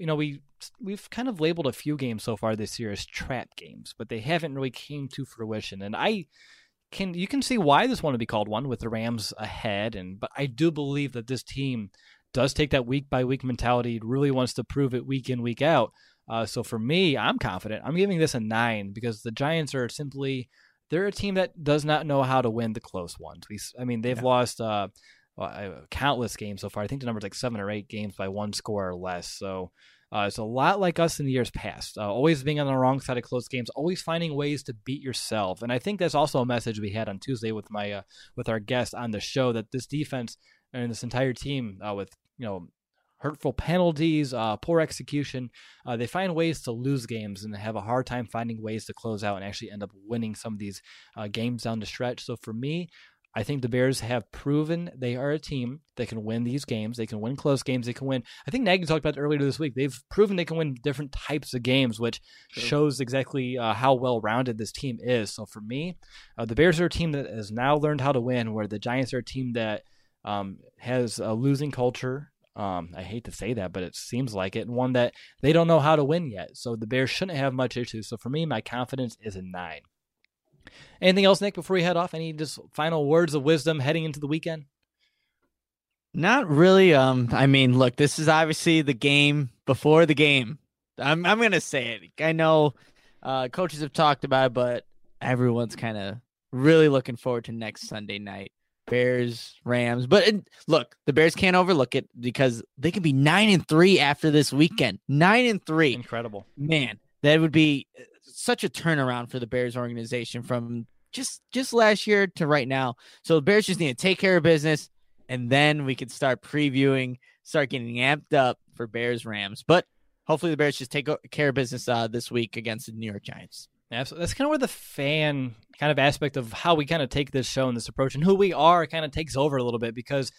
we've kind of labeled a few games so far this year as trap games, but they haven't really came to fruition. And you can see why this one would be called one with the Rams ahead. But I do believe that this team does take that week by week mentality. It really wants to prove it week in, week out. So for me, I'm confident. I'm giving this a 9 because the Giants are they're a team that does not know how to win the close ones. They've lost countless games so far. I think the number's like 7 or 8 games by 1 score or less. So it's a lot like us in the years past, always being on the wrong side of close games, always finding ways to beat yourself. And I think that's also a message we had on Tuesday with with our guest on the show, that this defense and this entire team with hurtful penalties, poor execution. They find ways to lose games and have a hard time finding ways to close out and actually end up winning some of these games down the stretch. So for me, I think the Bears have proven they are a team that can win these games. They can win close games. They can win. I think Nagy talked about it earlier this week. They've proven they can win different types of games, which shows exactly how well-rounded this team is. So for me, the Bears are a team that has now learned how to win, where the Giants are a team that has a losing culture. I hate to say that, but it seems like it, and one that they don't know how to win yet. So the Bears shouldn't have much issues. So for me, my confidence is a 9. Anything else, Nick, before we head off? Any just final words of wisdom heading into the weekend? Not really. I mean, look, this is obviously the game before the game. I'm going to say it. I know coaches have talked about it, but everyone's kind of really looking forward to next Sunday night. Bears, Rams. But look, the Bears can't overlook it because they can be 9-3 after this weekend. 9-3. Incredible. Man, that would be such a turnaround for the Bears organization from just last year to right now. So the Bears just need to take care of business, and then we could start previewing, start getting amped up for Bears Rams. But hopefully the Bears just take care of business this week against the New York Giants. Absolutely. That's kind of where the fan kind of aspect of how we kind of take this show and this approach and who we are kind of takes over a little bit, because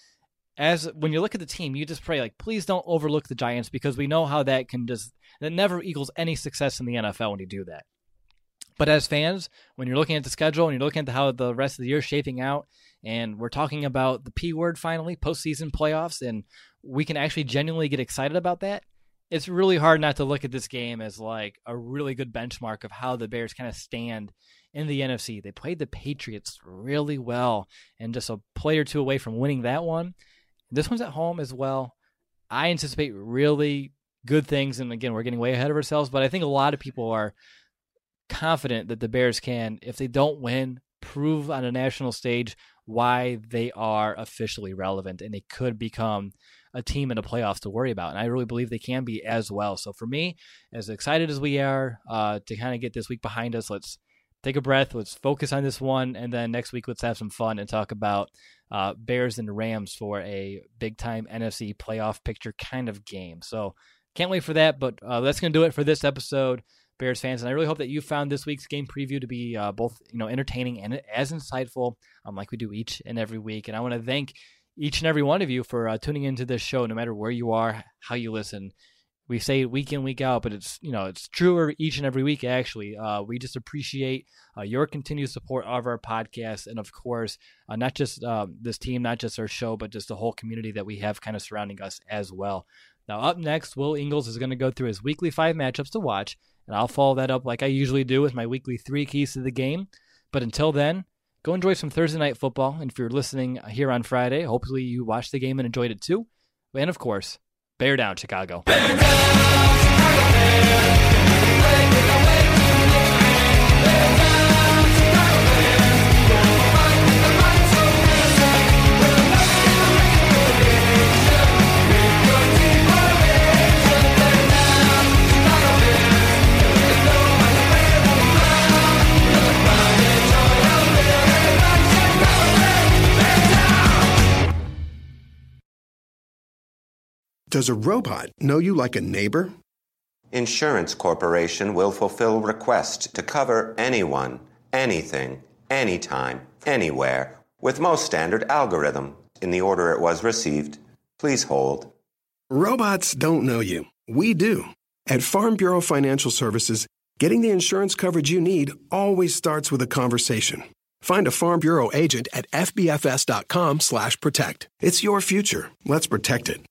when you look at the team, you just pray, like, please don't overlook the Giants, because we know how that never equals any success in the NFL when you do that. But as fans, when you're looking at the schedule and you're looking at how the rest of the year is shaping out, and we're talking about the P word finally, postseason playoffs, and we can actually genuinely get excited about that, it's really hard not to look at this game as like a really good benchmark of how the Bears kind of stand in the NFC. They played the Patriots really well and just a play or two away from winning that one. This one's at home as well. I anticipate really good things, and again, we're getting way ahead of ourselves, but I think a lot of people are confident that the Bears can, if they don't win, prove on a national stage why they are officially relevant and they could become a team in the playoffs to worry about. And I really believe they can be as well. So for me, as excited as we are to kind of get this week behind us, let's take a breath, let's focus on this one, and then next week let's have some fun and talk about Bears and Rams for a big-time NFC playoff picture kind of game. So can't wait for that, but that's going to do it for this episode, Bears fans. And I really hope that you found this week's game preview to be both entertaining and as insightful like we do each and every week. And I want to thank each and every one of you for tuning into this show, no matter where you are, how you listen. We say it week in, week out, but it's truer each and every week, actually. We just appreciate your continued support of our podcast, and of course, not just this team, not just our show, but just the whole community that we have kind of surrounding us as well. Now, up next, Will Ingles is going to go through his weekly 5 matchups to watch, and I'll follow that up like I usually do with my weekly 3 keys to the game. But until then, go enjoy some Thursday night football. And if you're listening here on Friday, hopefully you watched the game and enjoyed it too. And of course, bear down, Chicago. Bear down, Chicago Bears. Breaking away from the pain. Bear down, Chicago Bears. Gonna fight with the might so fierce. We're not in the nation. With your team formation. Bear down, Chicago Bears. There's no other way around. You're the pride and joy of Bears. Chicago Bears. Bear down. Does a robot know you like a neighbor? Insurance Corporation will fulfill requests to cover anyone, anything, anytime, anywhere, with most standard algorithm in the order it was received. Please hold. Robots don't know you. We do. At Farm Bureau Financial Services, getting the insurance coverage you need always starts with a conversation. Find a Farm Bureau agent at fbfs.com/protect. It's your future. Let's protect it.